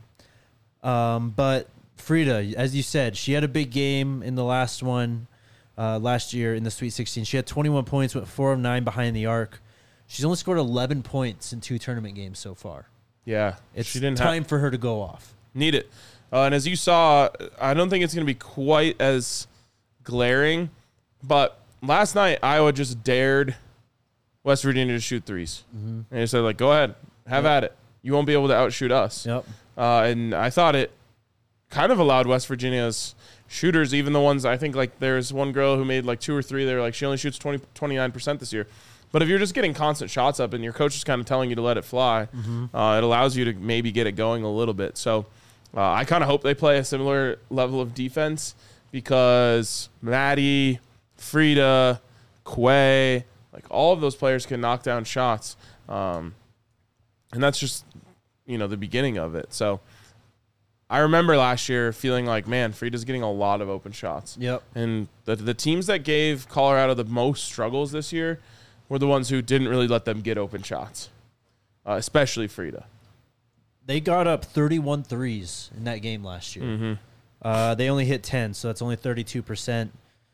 Um, but Frida, as you said, she had a big game in the last one uh, last year in the Sweet sixteen. She had twenty-one points, went four of nine behind the arc. She's only scored eleven points in two tournament games so far. Yeah. It's she didn't time have, for her to go off. Need it. Uh, and as you saw, I don't think it's going to be quite as glaring, but last night Iowa just dared West Virginia to shoot threes. Mm-hmm. And they said, like, go ahead, have yep. at it. You won't be able to outshoot us. Yep. Uh, and I thought it kind of allowed West Virginia's shooters, even the ones, I think, like, there's one girl who made like two or three. They were like, she only shoots twenty, twenty-nine percent this year. But if you're just getting constant shots up and your coach is kind of telling you to let it fly, mm-hmm. uh, it allows you to maybe get it going a little bit. So uh, I kind of hope they play a similar level of defense, because Maddie, Frida, Quay, like, all of those players can knock down shots. Um, and that's just, you know, the beginning of it. So I remember last year feeling like, man, Frida's getting a lot of open shots. Yep. And the the teams that gave Colorado the most struggles this year were the ones who didn't really let them get open shots, uh, especially Frida. They got up thirty-one threes in that game last year. Mm-hmm. Uh, they only hit ten, so that's only thirty-two percent.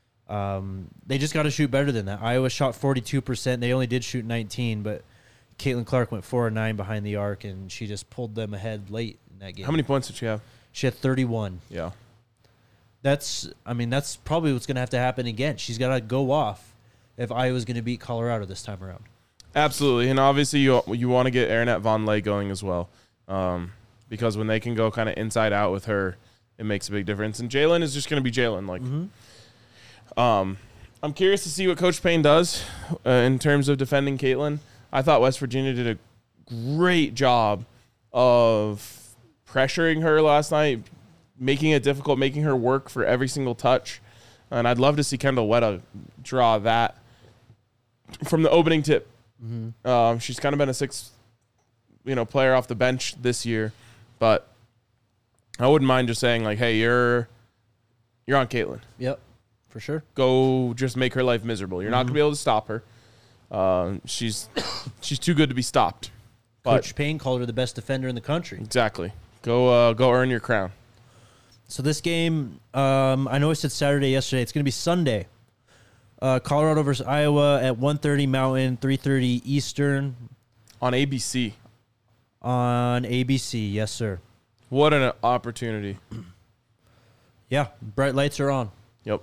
Um, they just got to shoot better than that. Iowa shot forty-two percent. They only did shoot nineteen, but Caitlin Clark went four and nine behind the arc, and she just pulled them ahead late in that game. How many points did she have? She had thirty-one. Yeah. That's, I mean, that's probably what's going to have to happen again. She's got to go off, if Iowa's going to beat Colorado this time around. Absolutely, and obviously you you want to get Aaronette Vonleh going as well, um, because when they can go kind of inside out with her, it makes a big difference. And Jalen is just going to be Jalen. Like, mm-hmm. um, I'm curious to see what Coach Payne does uh, in terms of defending Caitlin. I thought West Virginia did a great job of pressuring her last night, making it difficult, making her work for every single touch. And I'd love to see Kendall Wetta draw that from the opening tip. Mm-hmm. Um, she's kind of been a sixth, you know, player off the bench this year, but I wouldn't mind just saying like, "Hey, you're you're on Caitlin. Yep, for sure. Go, just make her life miserable. You're mm-hmm. not gonna be able to stop her. Um, she's she's too good to be stopped." But Coach Payne called her the best defender in the country. Exactly. Go uh, go earn your crown. So this game, um, I know I said Saturday yesterday. It's going to be Sunday. Uh, Colorado versus Iowa at one thirty Mountain, three thirty Eastern. On A B C. On A B C, yes, sir. What an opportunity. Yeah, bright lights are on. Yep.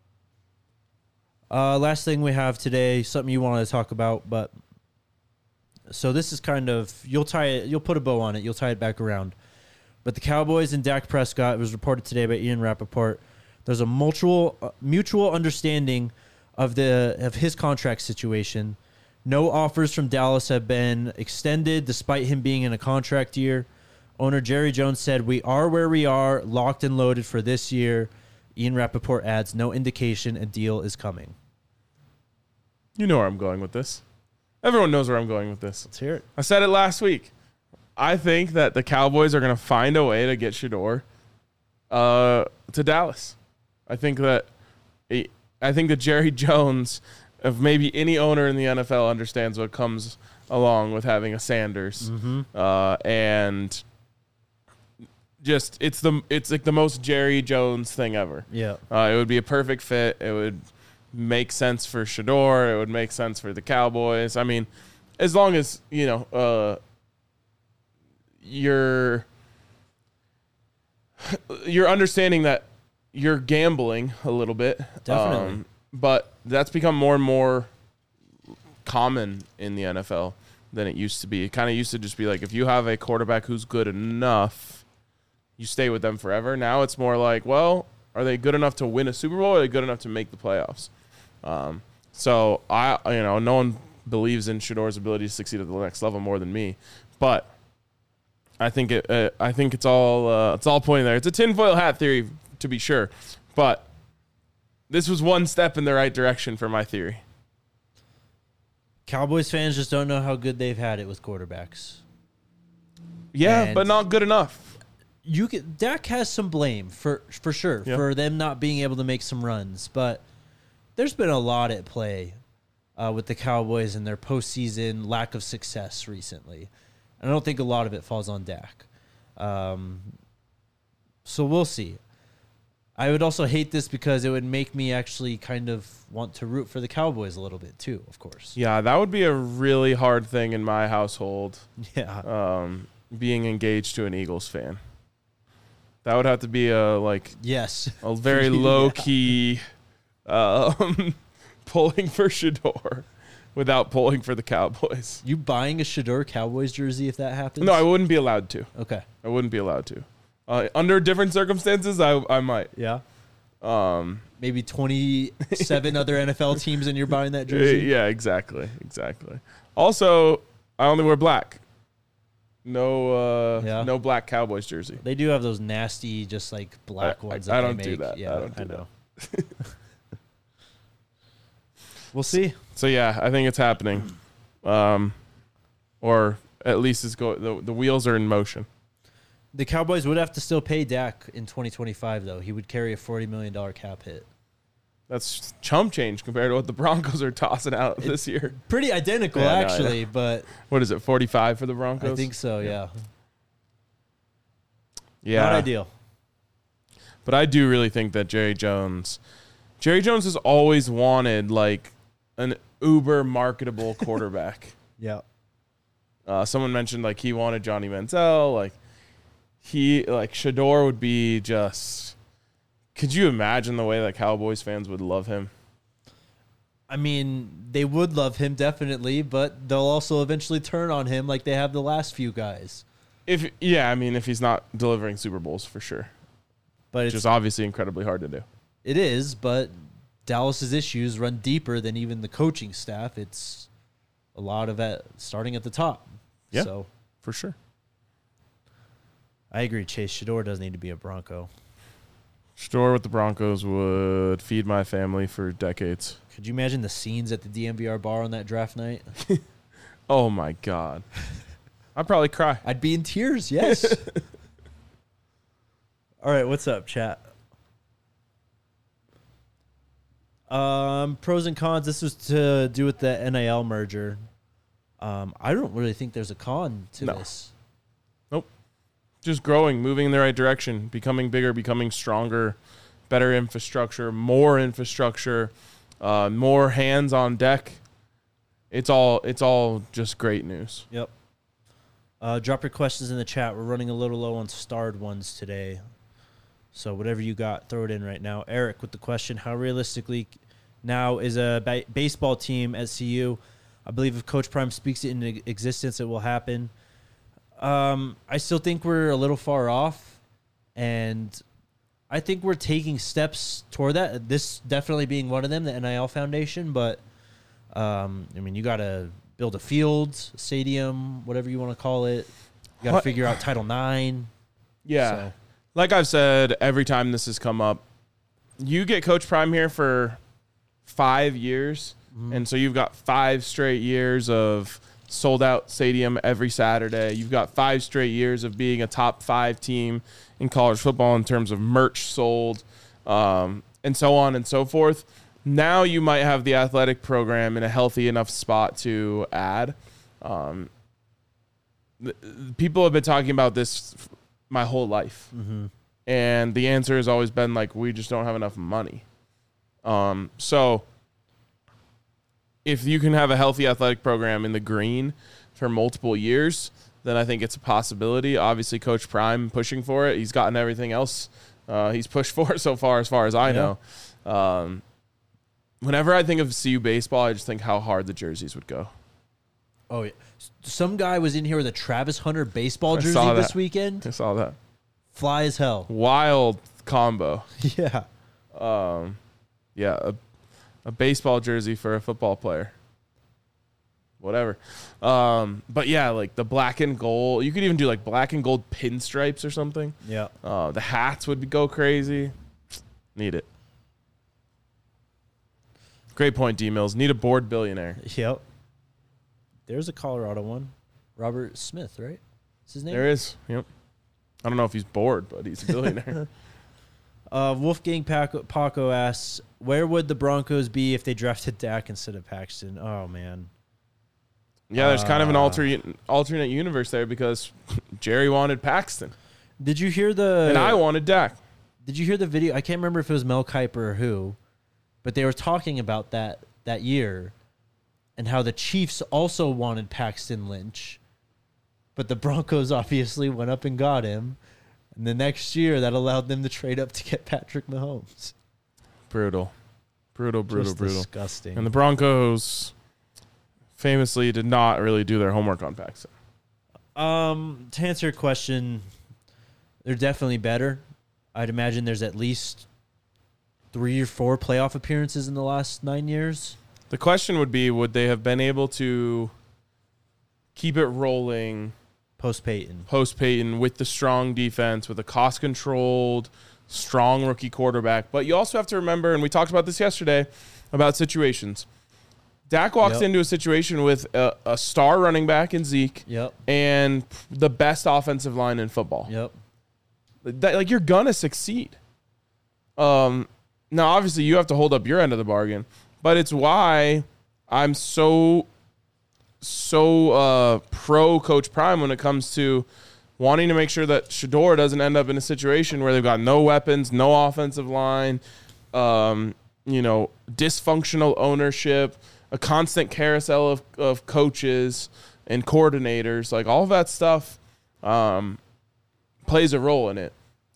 Uh, last thing we have today, something you wanted to talk about, but so this is kind of, you'll tie it, you'll put a bow on it, you'll tie it back around. But the Cowboys and Dak Prescott, it was reported today by Ian Rappaport, there's a mutual uh, mutual understanding of the of his contract situation. No offers from Dallas have been extended despite him being in a contract year. Owner Jerry Jones said, "We are where we are, locked and loaded for this year." Ian Rappaport adds, "No indication a deal is coming." You know where I'm going with this. Everyone knows where I'm going with this. Let's hear it. I said it last week. I think that the Cowboys are going to find a way to get Shedeur uh, to Dallas. I think that I think that Jerry Jones, of maybe any owner in the N F L, understands what comes along with having a Sanders, mm-hmm. uh, and just it's the it's like the most Jerry Jones thing ever. Yeah, uh, it would be a perfect fit. It would make sense for Shedeur. It would make sense for the Cowboys. I mean, as long as you know uh, you're you're understanding that. You're gambling a little bit. Definitely. Um, but that's become more and more common in the N F L than it used to be. It kind of used to just be like, if you have a quarterback who's good enough, you stay with them forever. Now it's more like, well, are they good enough to win a Super Bowl or are they good enough to make the playoffs? Um, so, I, you know, no one believes in Shedeur's ability to succeed at the next level more than me. But I think it. Uh, I think it's all. Uh, it's all pointing there. It's a tinfoil hat theory, to be sure, but this was one step in the right direction for my theory. Cowboys fans just don't know how good they've had it with quarterbacks. Yeah, and but not good enough. You can, Dak has some blame for for sure yep. for them not being able to make some runs, but there's been a lot at play uh, with the Cowboys and their postseason lack of success recently. And I don't think a lot of it falls on Dak. Um, so we'll see. I would also hate this because it would make me actually kind of want to root for the Cowboys a little bit too, of course. Yeah, that would be a really hard thing in my household. Yeah. Um, being engaged to an Eagles fan. That would have to be a like yes, a very low yeah. key um, pulling for Shedeur without pulling for the Cowboys. You buying a Shedeur Cowboys jersey if that happens? No, I wouldn't be allowed to. Okay. I wouldn't be allowed to. Uh, under different circumstances, I I might. Yeah. Um, Maybe twenty-seven other N F L teams and you're buying that jersey? Yeah, exactly. Exactly. Also, I only wear black. No uh, yeah. no black Cowboys jersey. They do have those nasty, just like black I, ones I, that I don't they do make. that. Yeah, I don't do I know. that. We'll see. So, yeah, I think it's happening. Um, or at least it's go. The, the wheels are in motion. The Cowboys would have to still pay Dak in twenty twenty-five, though. He would carry a forty million dollars cap hit. That's chump change compared to what the Broncos are tossing out it, this year. Pretty identical, yeah, actually, no, but... What is it, forty-five for the Broncos? I think so, yeah. Yeah. Not ideal. But I do really think that Jerry Jones... Jerry Jones has always wanted, like, an uber marketable quarterback. Yeah. Uh, someone mentioned, like, he wanted Johnny Manziel. Like, he... Like, Shedeur would be just... Could you imagine the way that Cowboys fans would love him? I mean, they would love him definitely, but they'll also eventually turn on him like they have the last few guys. If yeah, I mean, if he's not delivering Super Bowls for sure, But which it's is obviously incredibly hard to do. It is, but Dallas's issues run deeper than even the coaching staff. It's a lot of it starting at the top. Yeah, So for sure. I agree. Chase Shador does need to be a Bronco. Shador with the Broncos would feed my family for decades. Could you imagine the scenes at the D M V R bar on that draft night? Oh my God, I'd probably cry. I'd be in tears. Yes. All right, what's up, chat? Um, pros and cons. This was to do with the N I L merger. Um, I don't really think there's a con to No. this. Nope. Just growing, moving in the right direction, becoming bigger, becoming stronger, better infrastructure, more infrastructure, uh, more hands on deck. It's all it's all just great news. Yep. Uh, drop your questions in the chat. We're running a little low on starred ones today. So whatever you got, throw it in right now. Eric with the question, how realistically now is a ba- baseball team at C U? I believe if Coach Prime speaks it into existence, it will happen. Um, I still think we're a little far off, and I think we're taking steps toward that. This definitely being one of them, the N I L Foundation. But, um, I mean, you got to build a field, stadium, whatever you want to call it. You got to What? figure out Title nine. Yeah. So. Like I've said every time this has come up, you get Coach Prime here for five years, Mm-hmm. and so you've got five straight years of sold out stadium every Saturday. You've got five straight years of being a top five team in college football in terms of merch sold, um, and so on and so forth. Now you might have the athletic program in a healthy enough spot to add. Um, th- people have been talking about this f- my whole life. Mm-hmm. And the answer has always been like, we just don't have enough money. Um, so if you can have a healthy athletic program in the green for multiple years, then I think it's a possibility. Obviously, Coach Prime pushing for it. He's gotten everything else uh, he's pushed for so far, as far as I Yeah. know. Um, whenever I think of C U baseball, I just think how hard the jerseys would go. Oh, yeah. Some guy was in here with a Travis Hunter baseball I jersey saw this that. weekend. I saw that. Fly as hell. Wild combo. Yeah. Um, yeah, a, a baseball jersey for a football player. Whatever. Um, but yeah, like the black and gold. You could even do like black and gold pinstripes or something. Yeah. Uh, the hats would be, go crazy. Need it. Great point, D-Mills. Need a bored billionaire. Yep. There's a Colorado one. Robert Smith, right? Is his name? There is. Yep. I don't know if he's bored, but he's a billionaire. Uh, Wolfgang Paco, Paco asks, where would the Broncos be if they drafted Dak instead of Paxton? Oh, man. Yeah, there's kind of an Uh, alternate alternate universe there because Jerry wanted Paxton Did you hear the... and I wanted Dak. Did you hear the video? I can't remember if it was Mel Kiper or who, but they were talking about that that year and how the Chiefs also wanted Paxton Lynch, but the Broncos obviously went up and got him. And the next year, that allowed them to trade up to get Patrick Mahomes. Brutal. Brutal, brutal, Just brutal. disgusting. And the Broncos famously did not really do their homework on Paxton. Um, to answer your question, they're definitely better. I'd imagine there's at least three or four playoff appearances in the last nine years. The question would be, would they have been able to keep it rolling Post Peyton. post Peyton with the strong defense, with a cost-controlled, strong rookie quarterback? But you also have to remember, and we talked about this yesterday, about situations. Dak walks Yep. into a situation with a, a star running back in Zeke Yep. and the best offensive line in football. Yep. That, like, you're gonna succeed. Um, now, obviously, you have to hold up your end of the bargain, but it's why I'm so, so uh, pro Coach Prime when it comes to wanting to make sure that Shador doesn't end up in a situation where they've got no weapons, no offensive line, um, you know, dysfunctional ownership, a constant carousel of, of coaches and coordinators, like all of that stuff. Um, plays a role in it.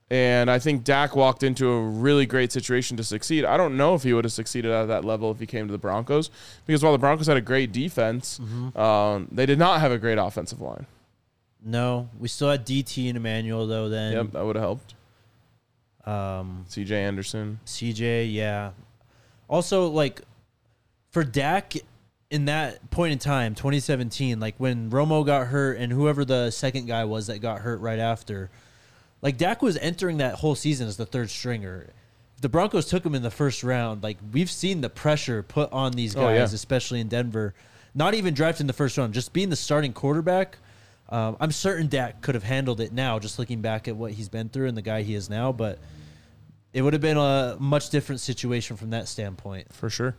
And I think Dak walked into a really great situation to succeed. I don't know if he would have succeeded at that level if he came to the Broncos, because while the Broncos had a great defense, mm-hmm. um, they did not have a great offensive line. No, we still had D T and Emmanuel, though, then. Yep, that would have helped. Um, C J Anderson. C J, yeah. Also, like, for Dak, in that point in time, twenty seventeen, like, when Romo got hurt and whoever the second guy was that got hurt right after, like, Dak was entering that whole season as the third stringer. If the Broncos took him in the first round, like, we've seen the pressure put on these guys, oh, yeah. especially in Denver. Not even drafted in the first round, just being the starting quarterback. Um, I'm certain Dak could have handled it now, just looking back at what he's been through and the guy he is now, but it would have been a much different situation from that standpoint. For sure.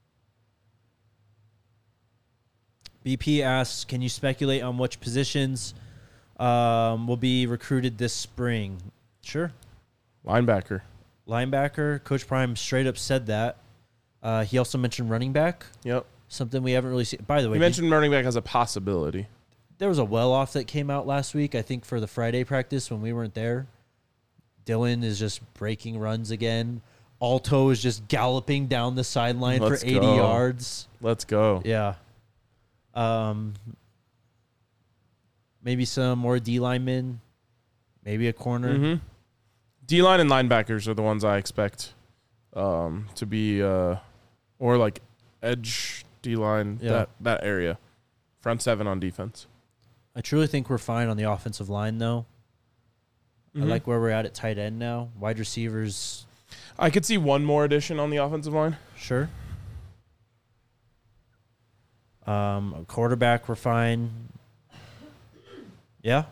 B P asks, can you speculate on which positions um, will be recruited this spring? Sure. Linebacker. Linebacker. Coach Prime straight up said that. Uh, he also mentioned running back. Yep. Something we haven't really seen. By the way, he mentioned running back as a possibility. There was a well-off that came out last week, I think, for the Friday practice when we weren't there. Dylan is just breaking runs again. Alto is just galloping down the sideline Let's for eighty go. yards. Let's go. Yeah. Um. Maybe some more D linemen. Maybe a corner. Mm-hmm. D line and linebackers are the ones I expect um, to be, uh, or like edge D line, yeah. that, that area. Front seven on defense. I truly think we're fine on the offensive line, though. Mm-hmm. I like where we're at at tight end now. Wide receivers. I could see one more addition on the offensive line. Sure. Um, quarterback, we're fine. Yeah.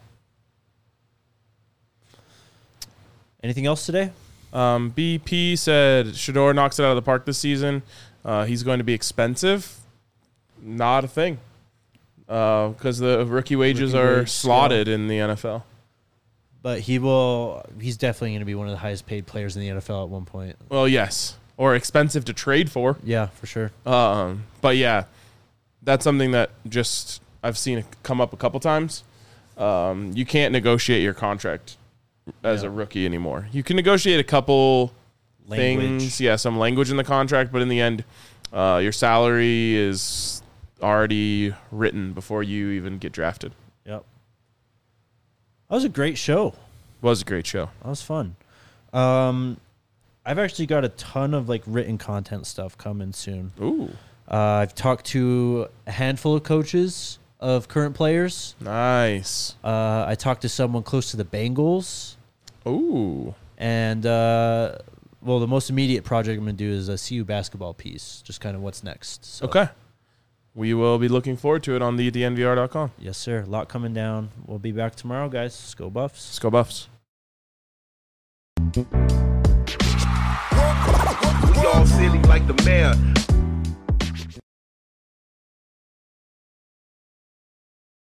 Anything else today? Um, B P said Shedeur knocks it out of the park this season. Uh, he's going to be expensive. Not a thing. Because uh, the rookie wages rookie are wage slotted scale. in the N F L. But he will. He's definitely going to be one of the highest paid players in the N F L at one point. Well, yes. Or expensive to trade for. Yeah, for sure. Um, but yeah, that's something that just I've seen it come up a couple times. Um, you can't negotiate your contract as yeah. a rookie anymore. You can negotiate a couple language. things. Yeah, some language in the contract, but in the end, uh, your salary is already written before you even get drafted. Yep. That was a great show. It was a great show. That was fun. Um, I've actually got a ton of like written content stuff coming soon. Ooh. Uh, I've talked to a handful of coaches of current players. Nice. Uh, I talked to someone close to the Bengals. Ooh. And, uh, well, the most immediate project I'm going to do is a C U basketball piece, just kind of what's next. So. Okay. We will be looking forward to it on the D N V R dot com. Yes, sir. A lot coming down. We'll be back tomorrow, guys. Let's go Buffs. Let's go Buffs. We all silly like the mayor.